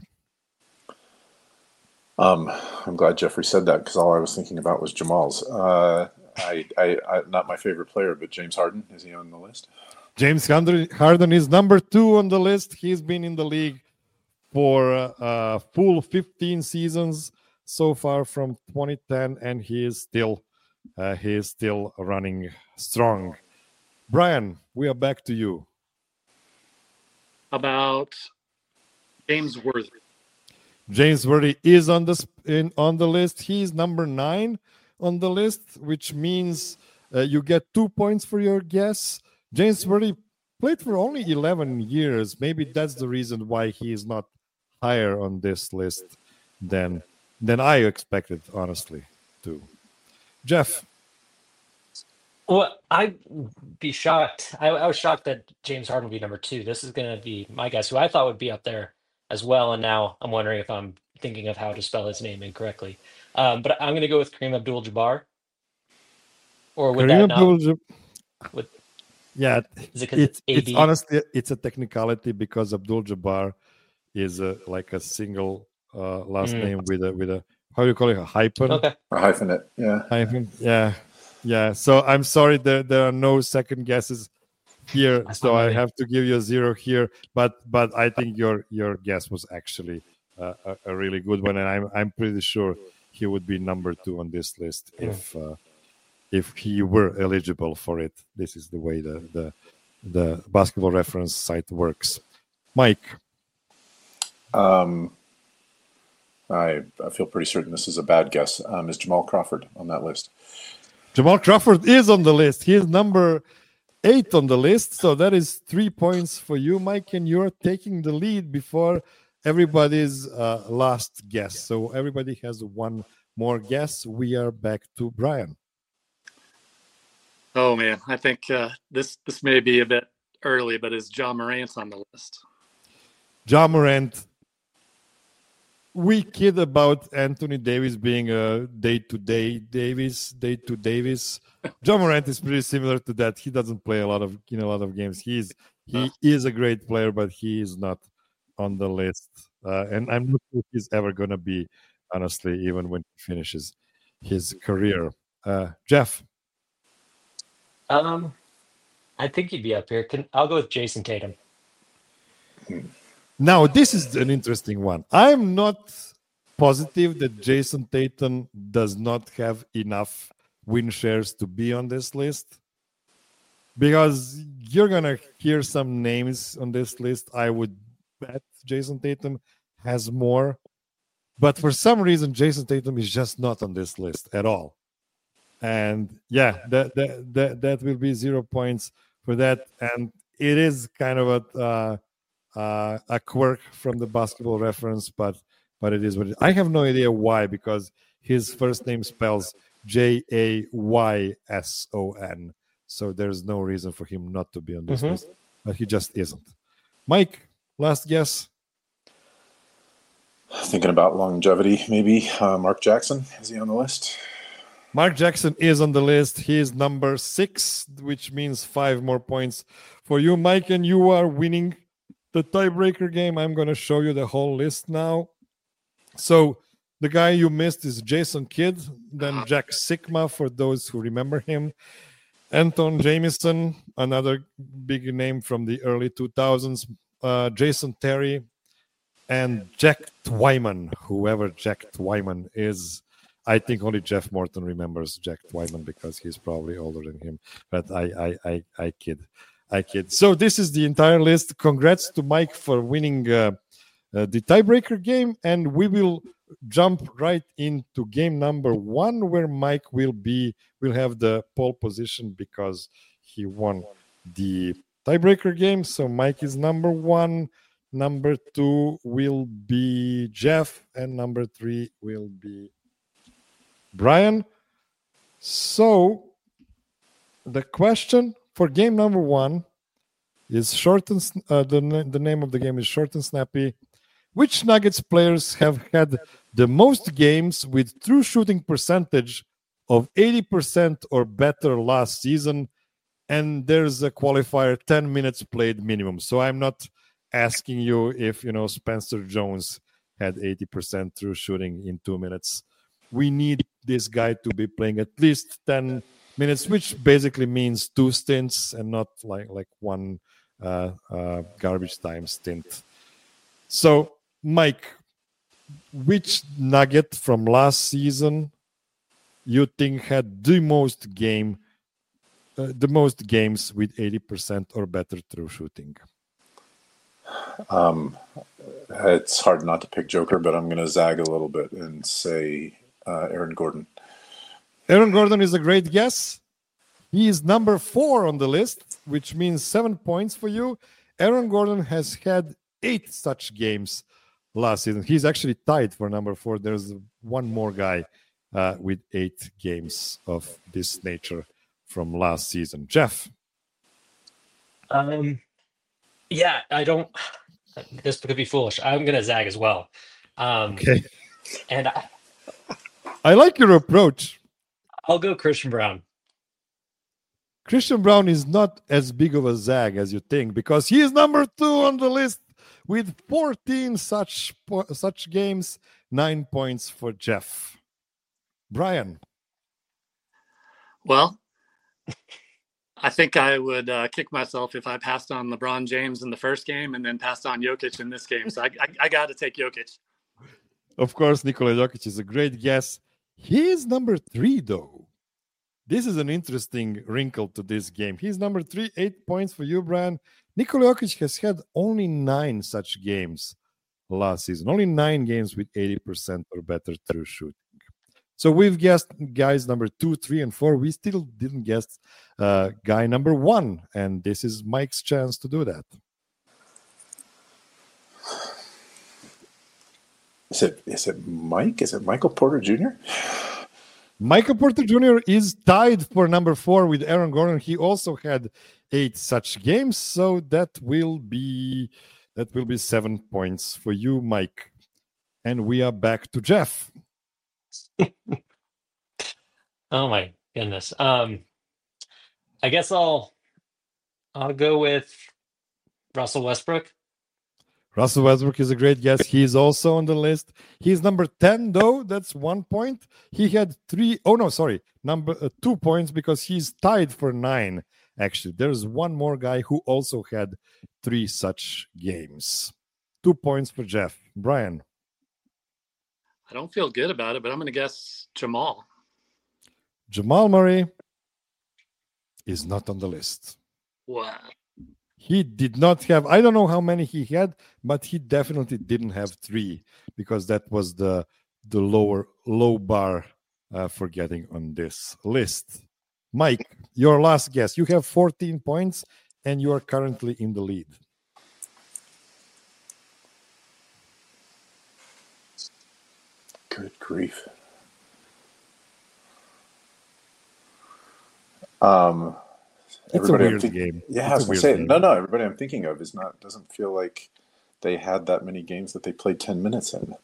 I'm glad Jeffrey said that, because all I was thinking about was Jamal's. I not my favorite player, but James Harden, is he on the list? James Harden is number 2 on the list. He's been in the league for a full 15 seasons so far from 2010, and he is still running strong. Brian, we are back to you. About James Worthy. James Worthy is on the list. He's number 9 on the list, which means you get 2 points for your guess. James Worthy played for only 11 years. Maybe that's the reason why he is not higher on this list than I expected, honestly, too. Jeff. Well, I'd be shocked. I was shocked that James Harden would be number 2. This is going to be my guess, who I thought would be up there as well. And now I'm wondering if I'm thinking of how to spell his name incorrectly. But I'm going to go with Kareem Abdul-Jabbar. Or would Kareem that not? Yeah, it's honestly, it's a technicality, because Abdul-Jabbar is like a single last name with a how do you call it, a hyphen? Okay. A hyphenate, yeah. Hyphen, yeah. So I'm sorry, there are no second guesses here, so I have to give you a 0 here. But I think your guess was actually a really good one, and I'm pretty sure he would be number 2 on this list if he were eligible for it. This is the way the Basketball Reference site works. Mike. I feel pretty certain this is a bad guess. Is Jamal Crawford on that list? Jamal Crawford is on the list. He is number 8 on the list. So that is 3 points for you, Mike, and you're taking the lead before everybody's last guess. So everybody has 1 more guess. We are back to Brian. Oh man, I think this may be a bit early, but is Ja Morant on the list? Ja Morant. We kid about Anthony Davis being a day-to-day Davis. Ja Morant is pretty similar to that. He doesn't play a lot of games. He is a great player, but he is not on the list. And I'm not sure if he's ever going to be, honestly, even when he finishes his career. Jeff. I think he'd be up here. I'll go with Jason Tatum. Now, this is an interesting one. I'm not positive that Jason Tatum does not have enough win shares to be on this list, because you're going to hear some names on this list. I would bet Jason Tatum has more, but for some reason, Jason Tatum is just not on this list at all. And yeah, that will be 0 points for that. And it is kind of a quirk from the Basketball Reference, but it is what it is. I have no idea why, because his first name spells Jayson. So there's no reason for him not to be on this list, but he just isn't. Mike, last guess. Thinking about longevity, maybe Mark Jackson. Is he on the list? Mark Jackson is on the list. He is number 6, which means 5 more points for you, Mike, and you are winning the tiebreaker game. I'm going to show you the whole list now. So the guy you missed is Jason Kidd, then Jack Sigma, for those who remember him. Anton Jamison, another big name from the early 2000s. Jason Terry, and Jack Twyman, whoever Jack Twyman is. I think only Jeff Morton remembers Jack Twyman because he's probably older than him. But I kid. So this is the entire list. Congrats to Mike for winning the tiebreaker game, and we will jump right into game number 1, where Mike will have the pole position because he won the tiebreaker game. So Mike is number 1. Number 2 will be Jeff, and number 3 will be Brian. So the question for game number 1 is short and the name of the game is short and snappy. Which Nuggets players have had the most games with true shooting percentage of 80% or better last season? And there's a qualifier, 10 minutes played minimum. So I'm not asking you if Spencer Jones had 80% true shooting in 2 minutes. We need this guy to be playing at least 10 minutes, which basically means 2 stints and not like one garbage time stint. So, Mike, which Nugget from last season you think had the most games with 80% or better true shooting? It's hard not to pick Joker, but I'm going to zag a little bit and say Aaron Gordon. Aaron Gordon is a great guess. He is number 4 on the list, which means 7 points for you. Aaron Gordon has had 8 such games last season. He's actually tied for number 4. There's one more guy with 8 games of this nature from last season. Jeff? Yeah, I don't. This could be foolish. I'm going to zag as well. Okay. And I like your approach. I'll go Christian Brown. Christian Brown is not as big of a zag as you think because he is number 2 on the list with 14 such games, 9 points for Jeff. Brian? Well, I think I would kick myself if I passed on LeBron James in the first game and then passed on Jokic in this game. So I got to take Jokic. Of course, Nikola Jokic is a great guess. He is number 3, though. This is an interesting wrinkle to this game. He's number 3, 8 points for you, Brian. Nikola Jokic has had only 9 such games last season. Only 9 games with 80% or better true shooting. So we've guessed guys number 2, 3, and 4. We still didn't guess guy number 1, and this is Mike's chance to do that. Is it Mike? Is it Michael Porter Jr.? Michael Porter Jr. is tied for number 4 with Aaron Gordon. He also had 8 such games, so that will be 7 points for you, Mike. And we are back to Jeff. Oh my goodness. I guess I'll go with Russell Westbrook. Russell Westbrook is a great guess. He's also on the list. He's number 10, though. That's 1 point. He had 2 points because he's tied for 9, actually. There's one more guy who also had 3 such games. 2 points for Jeff. Brian? I don't feel good about it, but I'm going to guess Jamal. Jamal Murray is not on the list. Wow. He did not have, I don't know how many he had, but he definitely didn't have 3 because that was the low bar for getting on this list. Mike, your last guess. You have 14 points and you are currently in the lead. Good grief. It's a weird game. Yeah, I was going to say, no, everybody I'm thinking of doesn't feel like they had that many games that they played 10 minutes in.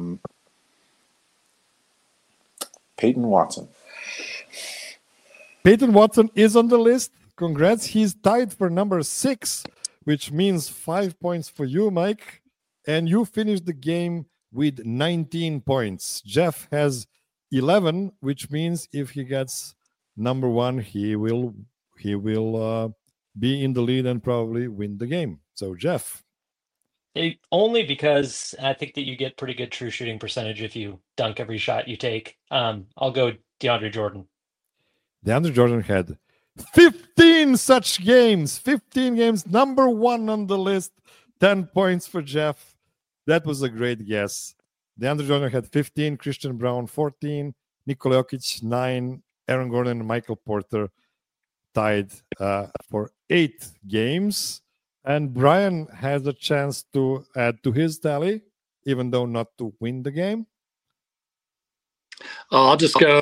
Peyton Watson. Peyton Watson is on the list. Congrats. He's tied for number 6, which means 5 points for you, Mike. And you finished the game with 19 points. Jeff has 11, which means if he gets number 1, he will be in the lead and probably win the game. So, Jeff. Only because I think that you get pretty good true shooting percentage if you dunk every shot you take. I'll go DeAndre Jordan. DeAndre Jordan had 15 such games. 15 games. Number 1 on the list. 10 points for Jeff. That was a great guess. DeAndre Jordan had 15. Christian Braun 14. Nikola Jokic 9. Aaron Gordon and Michael Porter tied for 8 games. And Brian has a chance to add to his tally, even though not to win the game. I'll just go.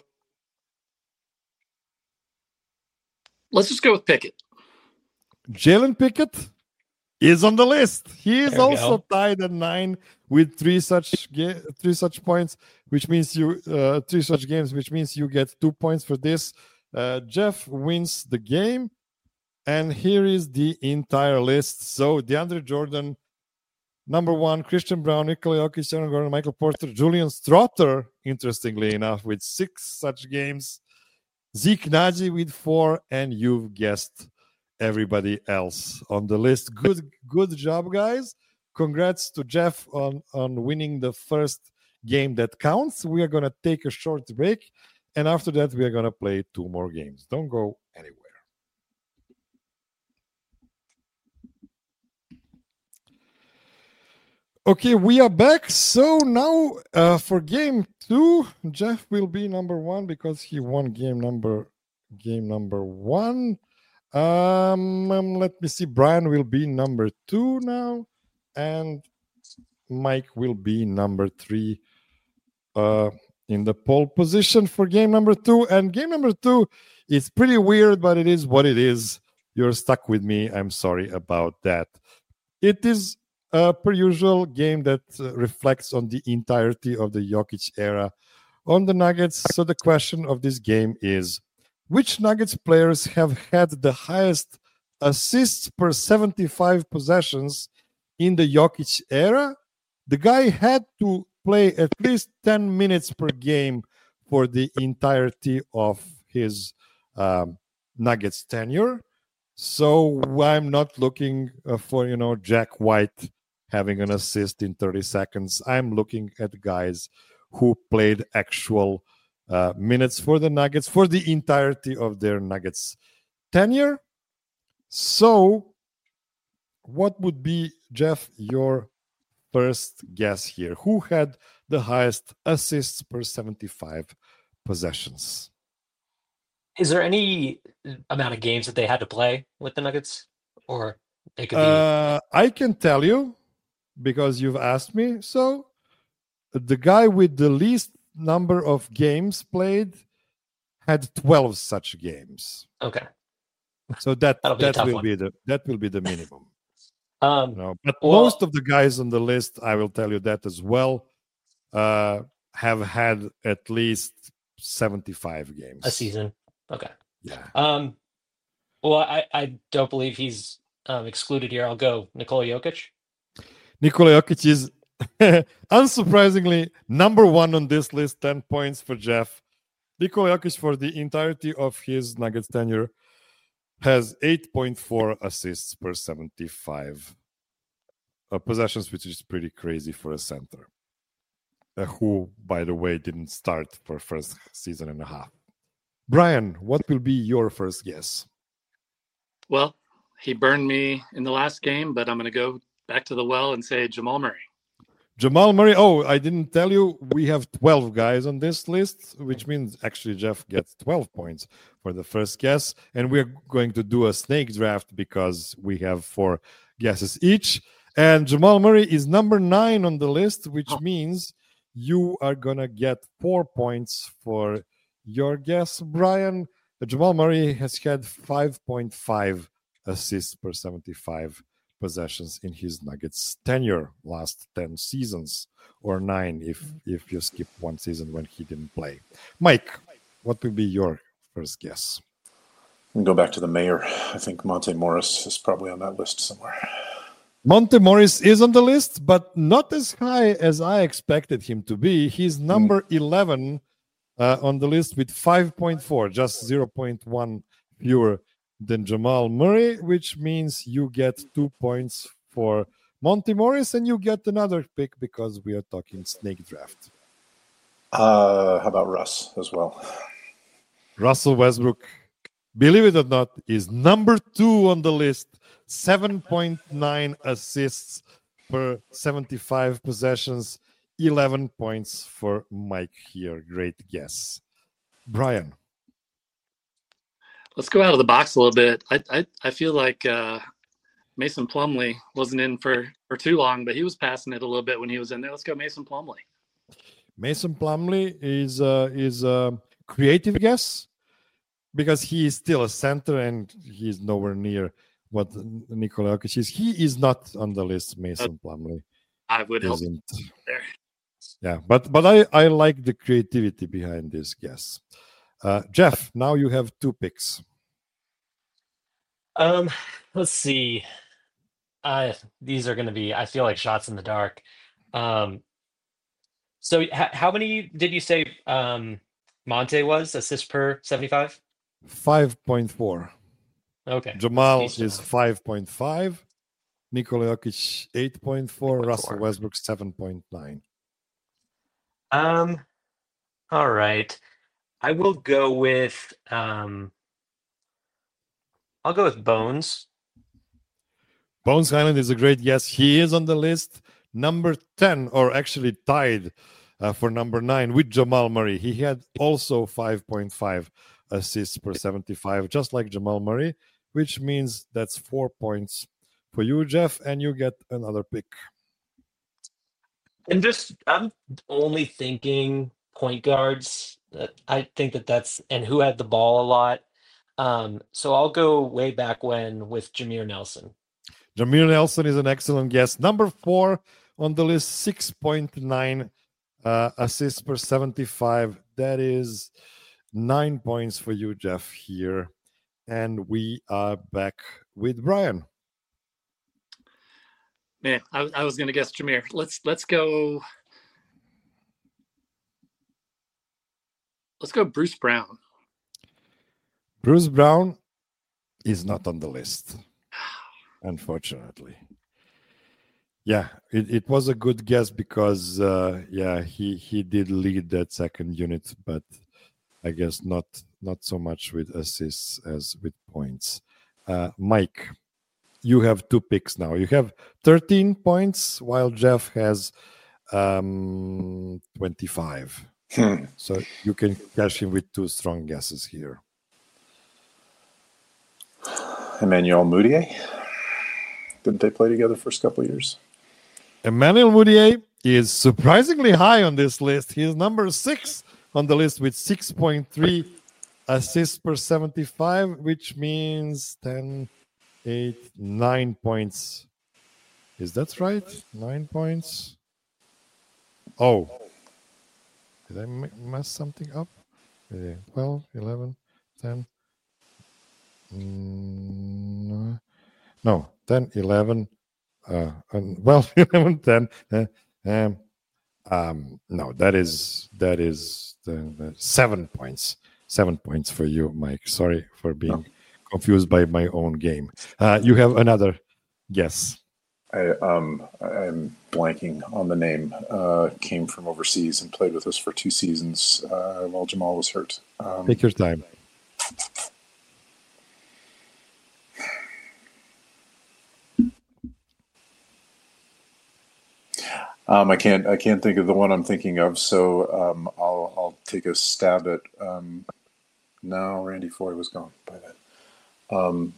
Let's just go with Pickett. Jalen Pickett is on the list. He is also tied at 9 with 3 such points, which means 3 such games, which means you get 2 points for this. Jeff wins the game. And here is the entire list. So DeAndre Jordan, number 1, Christian Braun, Nikola Jokic, Aaron Gordon, Michael Porter, Julian Strother, interestingly enough, with 6 such games. Zeke Naji with 4, and you've guessed everybody else on the list. Good job, guys. Congrats to Jeff on winning the first game that counts. We are going to take a short break, and after that, we are going to play 2 more games. Don't go anywhere. Okay, we are back. So now for game 2, Jeff will be number 1 because he won game number 1. Let me see. Brian will be number 2 now, and Mike will be number 3 in the pole position for game number 2. And game number 2 is pretty weird, but it is what it is. You're stuck with me. I'm sorry about that. It is per usual game that reflects on the entirety of the Jokic era on the Nuggets. So the question of this game is, which Nuggets players have had the highest assists per 75 possessions in the Jokic era? The guy had to play at least 10 minutes per game for the entirety of his Nuggets tenure. So I'm not looking for, Jack White having an assist in 30 seconds. I'm looking at guys who played actual minutes for the Nuggets for the entirety of their Nuggets tenure. So what would be, Jeff, your first guess here? Who had the highest assists per 75 possessions? Is there any amount of games that they had to play with the Nuggets? Or they could be... I can tell you, because you've asked me. So the guy with the least number of games played had 12 such games. Okay. So that will be the minimum. But most of the guys on the list, I will tell you that as well, have had at least 75 games a season. Okay. Yeah. Well, I don't believe he's excluded here. I'll go Nikola Jokic. Nikola Jokic is unsurprisingly number 1 on this list. 10 points for Jeff. Nikola Jokic, for the entirety of his Nuggets tenure, has 8.4 assists per 75 possessions, which is pretty crazy for a center, who, by the way, didn't start for first season and a half. Brian, what will be your first guess? Well, he burned me in the last game, but I'm going to go back to the well and say Jamal Murray. Jamal Murray. Oh, I didn't tell you. We have 12 guys on this list, which means actually Jeff gets 12 points for the first guess. And we're going to do a snake draft because we have 4 guesses each. And Jamal Murray is number 9 on the list, which means you are going to get 4 points for your guess. Brian, Jamal Murray has had 5.5 assists per 75 possessions in his Nuggets tenure, last 10 seasons, or 9 if you skip one season when he didn't play. Mike, what would be your first guess? And go back to the mayor. I think Monte Morris is probably on that list somewhere. Monte Morris is on the list, but not as high as I expected him to be. He's number 11 on the list with 5.4, just 0.1 fewer than Jamal Murray, which means you get 2 points for Monte Morris and you get another pick because we are talking snake draft. How about Russ as well? Russell Westbrook, believe it or not, is number 2 on the list. 7.9 assists per 75 possessions. 11 points for Mike here. Great guess. Brian. Let's go out of the box a little bit. I feel like Mason Plumlee wasn't in for too long, but he was passing it a little bit when he was in there. Let's go Mason Plumlee. Mason Plumlee is a creative guess because he is still a center and he's nowhere near what Nikola Jokic is. He is not on the list, Mason Plumlee. I would help there. Yeah, but I like the creativity behind this guess. Jeff, now you have 2 picks. Let's see. These are going to be, I feel like, shots in the dark. So how many did you say Monte was assists per 75? 5.4. Okay. Jamal is 5.5. Nikola Jokic 8.4. Russell Westbrook 7.9. All right. I will go with I'll go with Bones. Bones Hyland is a great guess. He is on the list, number 10, or actually tied for number 9 with Jamal Murray. He had also 5.5 assists per 75, just like Jamal Murray, which means that's 4 points for you, Jeff, and you get another pick. And I'm only thinking point guards. I think that's and who had the ball a lot. So I'll go way back when with Jameer Nelson. Jameer Nelson is an excellent guess. Number 4 on the list, 6.9 assists per 75. That is 9 points for you, Jeff, here. And we are back with Brian. Man, I was going to guess Jameer. Let's go. Let's go Bruce Brown. Bruce Brown is not on the list, unfortunately. Yeah, it was a good guess because, he did lead that second unit, but I guess not so much with assists as with points. Mike, you have 2 picks now. You have 13 points, while Jeff has 25. So you can cash in with 2 strong guesses here. Emmanuel Mudiay. Didn't they play together first couple of years? Emmanuel Mudiay is surprisingly high on this list. He is number 6 on the list with 6.3 assists per 75, which means 10, 8, 9 points. Is that right? 9 points? Oh. Did I mess something up? 12, 11, 10. No, 10, 11. 11, 10. No, that is 7 points. 7 points for you, Mike. Sorry for being confused by my own game. You have another guess. I'm blanking on the name. Came from overseas and played with us for 2 seasons while Jamal was hurt. Take your time. I can't think of the one I'm thinking of, so I'll take a stab at. No, Randy Foy was gone by then.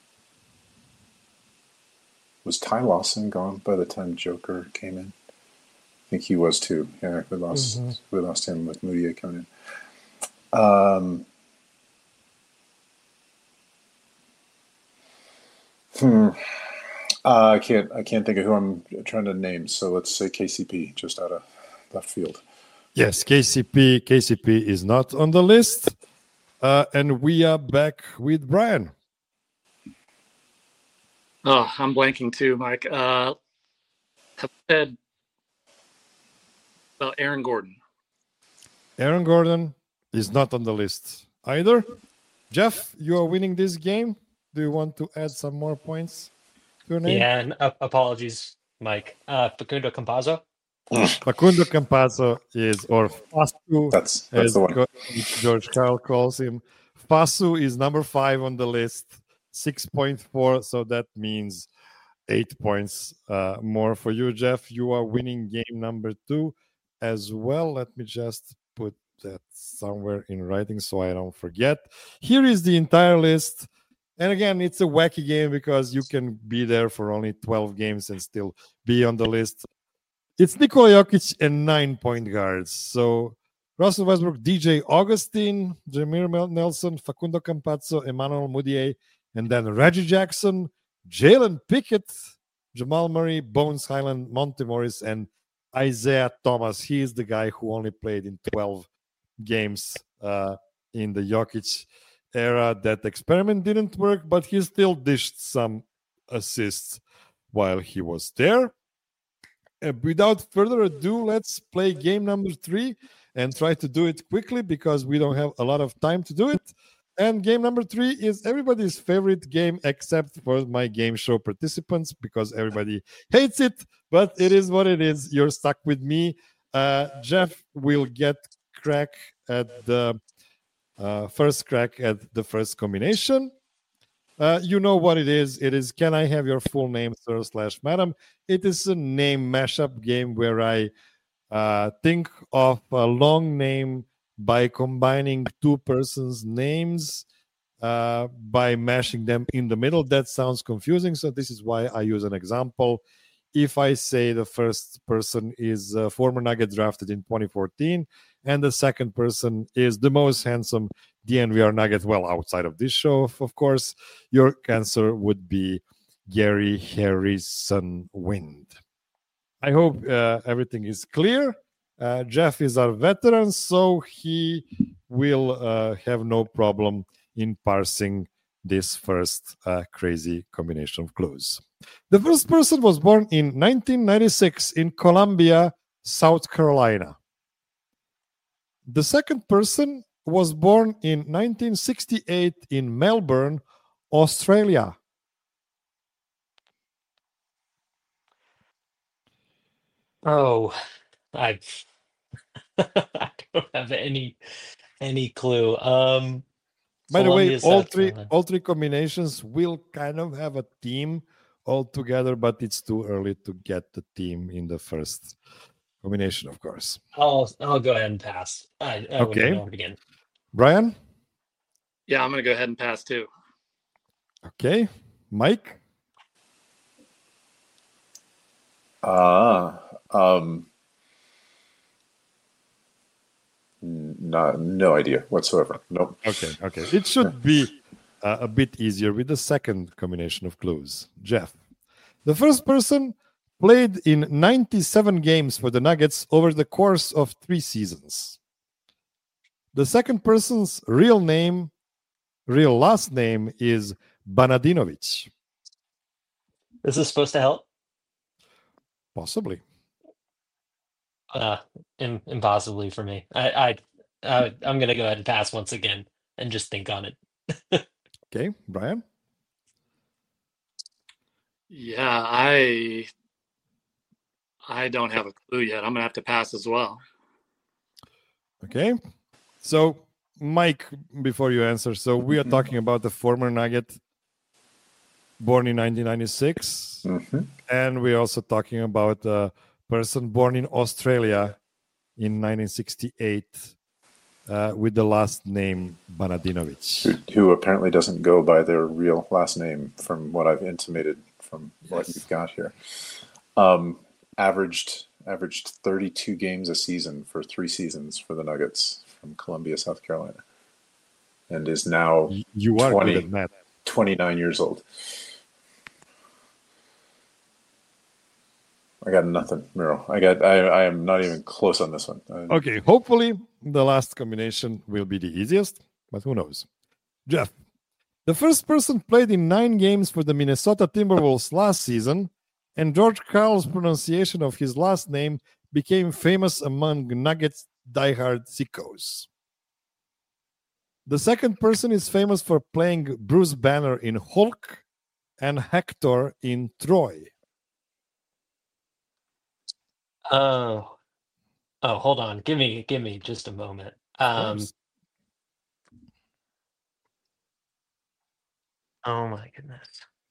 Was Ty Lawson gone by the time Joker came in? I think he was too. Yeah, we lost him with Mudiay coming in. I can't think of who I'm trying to name. So let's say KCP, just out of left field. Yes, KCP is not on the list. And we are back with Brian. Oh, I'm blanking too, Mike. Have said about Aaron Gordon. Aaron Gordon is not on the list either. Jeff, you are winning this game. Do you want to add some more points to your name? Yeah, and apologies, Mike. Facundo Campazzo. Facundo Campazzo is, or Fasu, That's as the one. George Carl calls him. Fasu is number 5 on the list, 6.4. So that means 8 points more for you, Jeff. You are winning game number 2 as well. Let me just put that somewhere in writing so I don't forget. Here is the entire list. And again, it's a wacky game because you can be there for only 12 games and still be on the list. It's Nikola Jokic and 9 point guards. So Russell Westbrook, DJ Augustine, Jameer Nelson, Facundo Campazzo, Emmanuel Mudiay, and then Reggie Jackson, Jalen Pickett, Jamal Murray, Bones Highland, Monte Morris, and Isaiah Thomas. He is the guy who only played in 12 games in the Jokic era. That experiment didn't work, but he still dished some assists while he was there. Without further ado, let's play game number 3 and try to do it quickly because we don't have a lot of time to do it. And game number 3 is everybody's favorite game except for my game show participants because everybody hates it, but it is what it is. You're stuck with me. Jeff will get crack at the first crack at the first combination. You know what it is. It is, can I have your full name, sir/madam? It is a name mashup game where I think of a long name by combining two persons' names by mashing them in the middle. That sounds confusing, so this is why I use an example. If I say the first person is a former Nugget drafted in 2014 and the second person is the most handsome DNVR Nugget, well, outside of this show, of course, your answer would be Gary Harrison Wind. I hope everything is clear. Jeff is our veteran, so he will have no problem in parsing this first crazy combination of clues. The first person was born in 1996 in Columbia, South Carolina. The second person was born in 1968 in Melbourne, Australia. Oh, I I don't have any clue. By the way, Columbia, all three combinations will kind of have a theme all together, but it's too early to get the theme in the first combination, of course. I'll go ahead and pass. I wouldn't know it again. Brian? Yeah, I'm going to go ahead and pass too. Okay. Mike? No idea whatsoever. Nope. Okay. It should be a bit easier with the second combination of clues. Jeff. The first person played in 97 games for the Nuggets over the course of 3 seasons. The second person's real last name is Banadinovic. Is this supposed to help? Possibly. Impossibly for me. I'm gonna go ahead and pass once again and just think on it. Okay, Brian. Yeah, I don't have a clue yet. I'm gonna have to pass as well. Okay, so Mike, before you answer, so we are talking about the former Nugget born in 1996, and we're also talking about a person born in Australia in 1968 with the last name Banadinovic. Who apparently doesn't go by their real last name from what I've intimated from what you've got here. Averaged 32 games a season for 3 seasons for the Nuggets from Columbia, South Carolina. And is now you are good at math. 29 years old. I got nothing, Miro. I am not even close on this one. Okay, hopefully the last combination will be the easiest, but who knows? Jeff, the first person played in 9 games for the Minnesota Timberwolves last season, and George Karl's pronunciation of his last name became famous among Nuggets diehard sickos. The second person is famous for playing Bruce Banner in Hulk and Hector in Troy. Oh, hold on. Give me just a moment. Oh my goodness.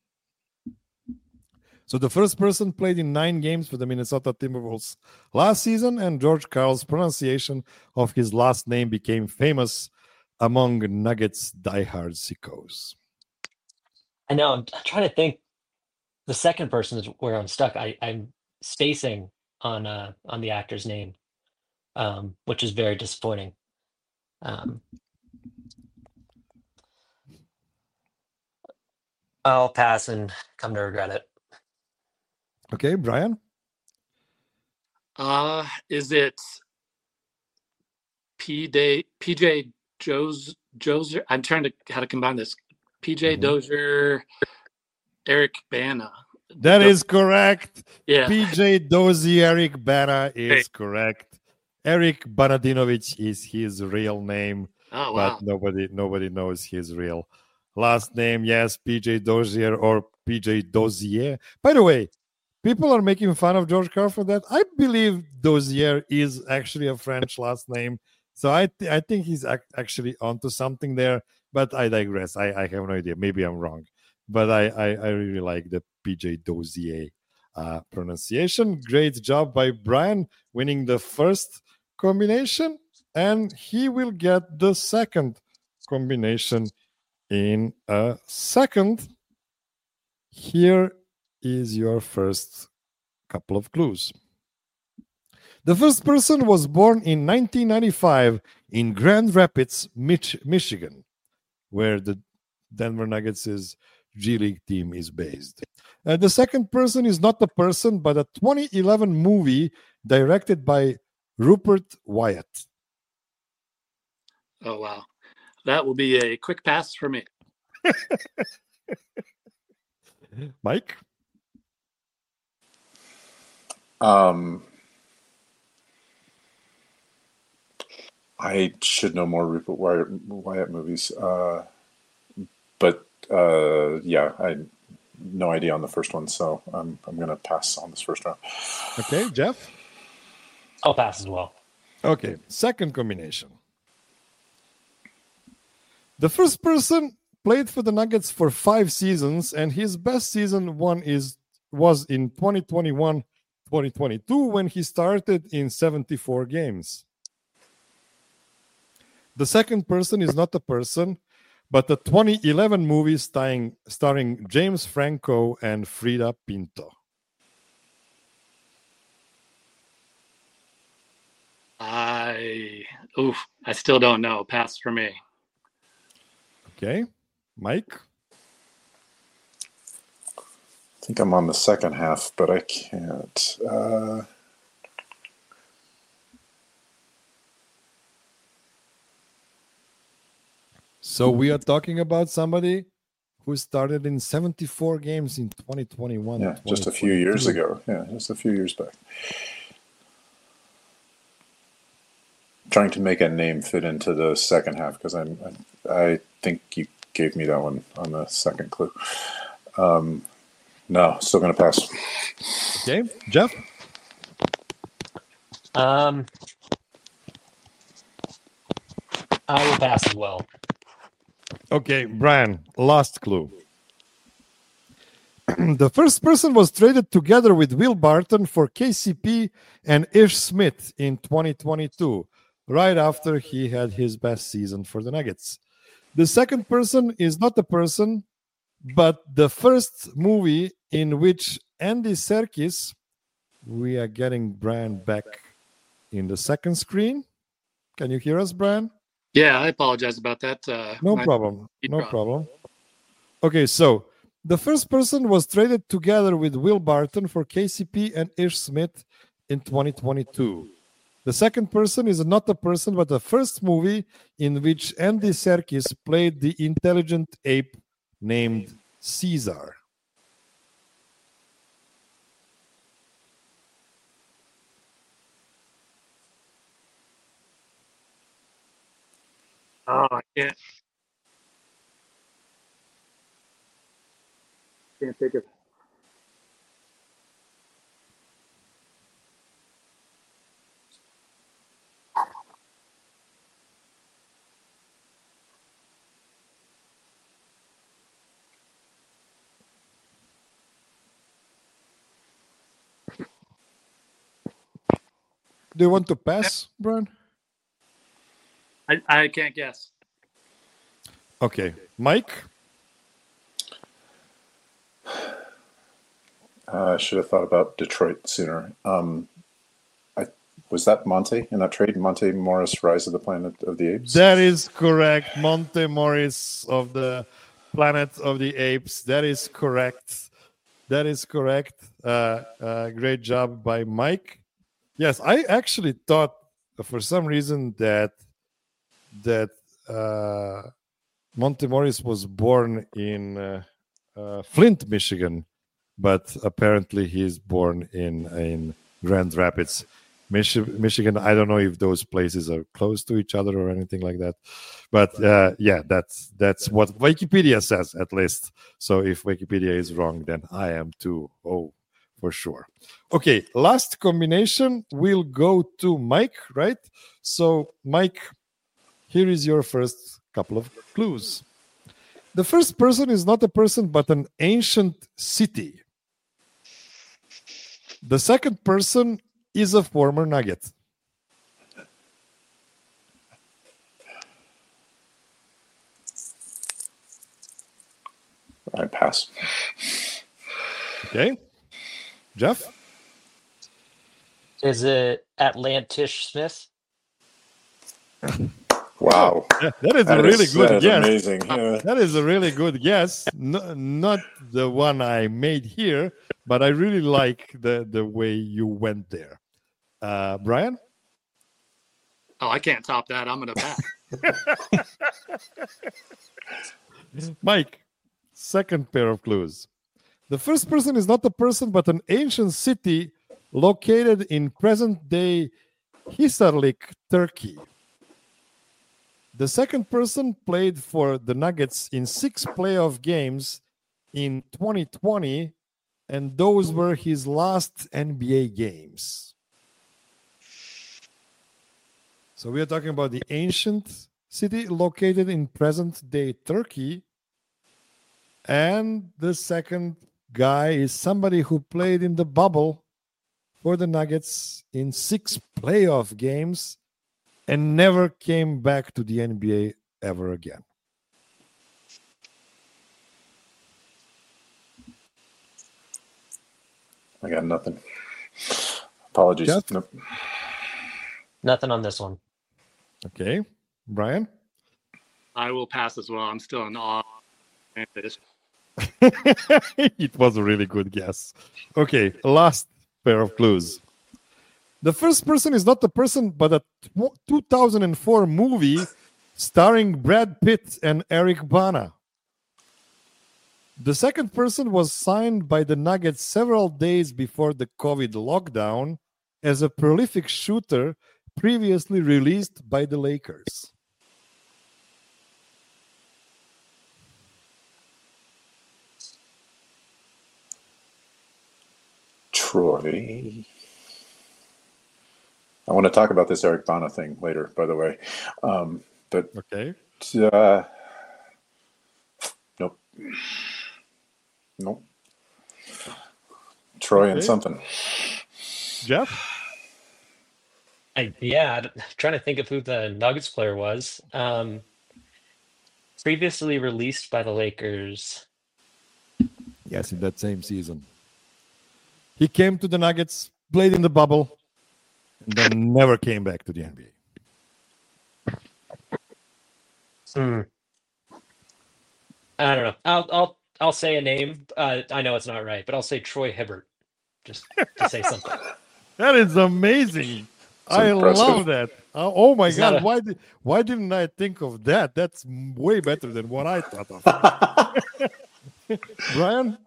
So the first person played in 9 games for the Minnesota Timberwolves last season, and George Karl's pronunciation of his last name became famous among Nuggets diehard sickos. I know. I'm trying to think. The second person is where I'm stuck. I'm spacing on the actor's name, which is very disappointing. I'll pass and come to regret it. Okay, Brian? Is it PJ Dozier? I'm trying to how to combine this. PJ Dozier, Eric Bana. That is correct. Yeah. PJ Dozier, Eric Bana is correct. Eric Banadinovic is his real name. Oh, wow. But nobody knows his real last name. Yes, PJ Dozier or PJ Dozier. By the way, people are making fun of George Karl for that. I believe Dozier is actually a French last name. So I think he's actually onto something there. But I digress. I have no idea. Maybe I'm wrong. But I really like the PJ Dozier pronunciation. Great job by Brian winning the first combination. And he will get the second combination in a second. Here is your first couple of clues. The first person was born in 1995 in Grand Rapids, Michigan, where the Denver Nuggets' G League team is based. The second person is not a person, but a 2011 movie directed by Rupert Wyatt. Oh, wow. That will be a quick pass for me. Mike? I should know more Rupert Wyatt movies. But yeah, I no idea on the first one, so I'm going to pass on this first round. Okay, Jeff? I'll pass as well. Okay, second combination. The first person played for the Nuggets for 5 seasons, and his best season was in 2021-2022 when he started in 74 games. The second person is not a person, but a 2011 movie starring James Franco and Frida Pinto. I still don't know. Pass for me. Okay. Mike? I think I'm on the second half, but I can't. So we are talking about somebody who started in 74 games in 2021. Yeah, just a few years ago. Yeah, just a few years back. Trying to make a name fit into the second half because I think you gave me that one on the second clue. No, still going to pass. Okay, Jeff? I will pass as well. Okay, Brian, last clue. The first person was traded together with Will Barton for KCP and Ish Smith in 2022, right after he had his best season for the Nuggets. The second person is not a person, but the first movie in which Andy Serkis, we are getting Brian back in the second screen. Can you hear us, Brian? Yeah, I apologize about that. No problem. Okay, so The first person was traded together with Will Barton for KCP and Ish Smith in 2022. The second person is not a person, but the first movie in which Andy Serkis played the intelligent ape named Caesar. Oh, I can't take it. Do you want to pass, Brian? I can't guess. Okay. Mike? I should have thought about Detroit sooner. Was that Monte in that trade? Monte Morris, Rise of the Planet of the Apes? That is correct. Monte Morris of the Planet of the Apes. That is correct. That is correct. Great job by Mike. Yes, I actually thought for some reason that Monte Morris was born in Flint, Michigan, but apparently he's born in Grand Rapids, Michigan. I don't know if those places are close to each other or anything like that, but yeah, that's what Wikipedia says at least. So if Wikipedia is wrong, then I am too. Oh, for sure. Okay, last combination will go to Mike, right? So Mike, here is your first couple of clues. The first person is not a person, but an ancient city. The second person is a former Nugget. I pass. Okay. Jeff? Is it Atlantis Smith? Wow. That is a really good guess. Amazing. Yeah. That is a really good guess. Not the one I made here, but I really like the way you went there. Brian? Oh, I can't top that. I'm going to pass. Mike, second pair of clues. The first person is not a person, but an ancient city located in present-day Hisarlik, Turkey. The second person played for the Nuggets in 6 playoff games in 2020, and those were his last NBA games. So we are talking about the ancient city located in present-day Turkey, and the second guy is somebody who played in the bubble for the Nuggets in 6 playoff games and never came back to the NBA ever again. I got nothing. Apologies. Jeff? Nope. Nothing on this one. Okay. Brian? I will pass as well. I'm still in awe. It was a really good guess. Okay, last pair of clues. The first person is not a person, but a 2004 movie starring Brad Pitt and Eric Bana. The second person was signed by the Nuggets several days before the COVID lockdown as a prolific shooter previously released by the Lakers. Troy. I want to talk about this Eric Bana thing later, by the way. But okay. Nope. Nope. Troy and something. Jeff? I'm trying to think of who the Nuggets player was. Previously released by the Lakers. Yes, in that same season. He came to the Nuggets, played in the bubble, and then never came back to the NBA. I don't know. I'll I'll say a name. I know it's not right, but I'll say Troy Hibbert, just to say something. That is amazing. I impressive. love that. Oh my It's not God! Why didn't I think of that? That's way better than what I thought of. Brian?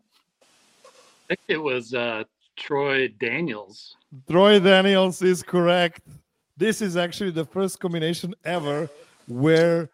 I think it was Troy Daniels. Troy Daniels is correct. This is actually the first combination ever where,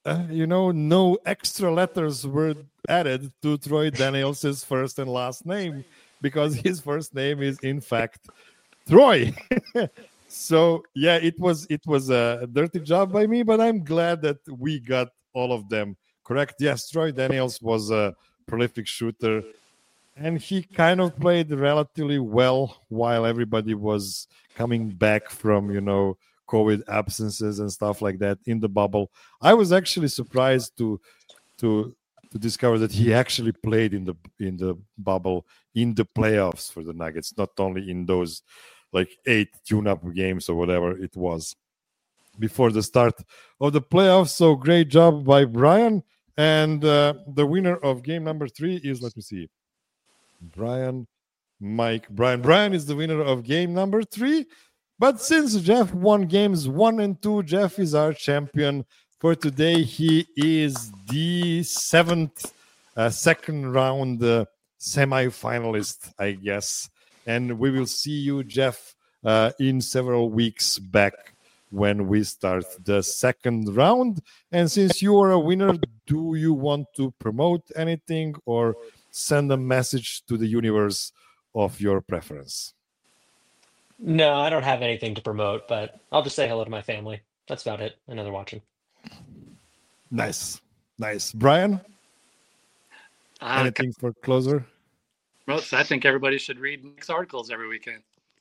no extra letters were added to Troy Daniels' first and last name because his first name is, in fact, Troy. So, yeah, it was a dirty job by me, but I'm glad that we got all of them correct. Yes, Troy Daniels was a prolific shooter. And he kind of played relatively well while everybody was coming back from, COVID absences and stuff like that in the bubble. I was actually surprised to discover that he actually played in the bubble in the playoffs for the Nuggets, not only in those like 8 tune-up games or whatever it was before the start of the playoffs. So great job by Brian. And the winner of game number 3 is, let me see, Brian is the winner of game number 3. But since Jeff won games 1 and 2, Jeff is our champion for today. He is the 7th second round semi-finalist, I guess. And we will see you, Jeff, in several weeks back when we start the second round. And since you are a winner, do you want to promote anything or send a message to the universe of your preference? No, I don't have anything to promote, but I'll just say hello to my family. That's about it. I know they're watching. Nice. Brian? Anything for closer? I think everybody should read Nick's articles every weekend.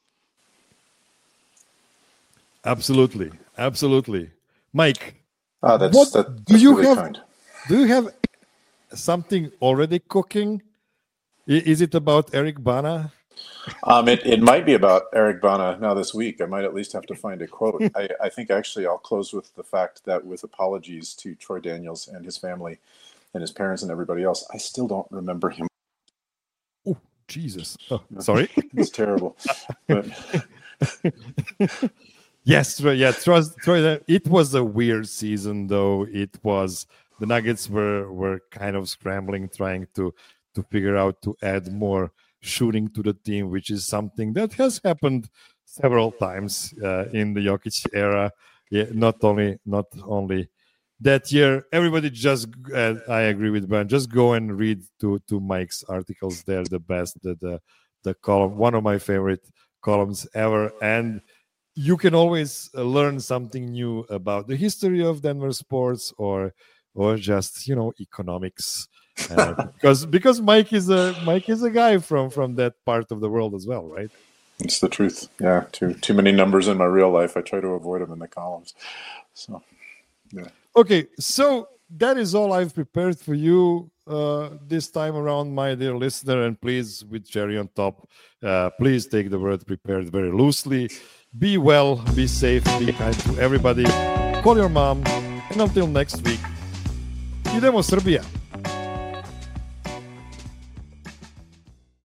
Absolutely. Mike, that's do you really have? kind. Do you have something already cooking? Is it about Eric Bana? It might be about Eric Bana now this week. I might at least have to find a quote. I think actually I'll close with the fact that, with apologies to Troy Daniels and his family and his parents and everybody else, I still don't remember him. Oh, Jesus. Oh, sorry. It's terrible. But yes, Troy. It was a weird season, though. It was, the Nuggets were kind of scrambling, trying to figure out to add more shooting to the team, which is something that has happened several times in the Jokic era. Yeah, not only that year. Everybody just, I agree with Brian, just go and read to Mike's articles. They're the best. The column, one of my favorite columns ever. And you can always learn something new about the history of Denver sports or just, economics. Because Mike is a guy from that part of the world as well, right? It's the truth. Yeah, too many numbers in my real life. I try to avoid them in the columns. So, yeah. Okay, so that is all I've prepared for you this time around, my dear listener. And please, with cherry on top, please take the word prepared very loosely. Be well, be safe, be kind to everybody. Call your mom. And until next week, idemo Srbija.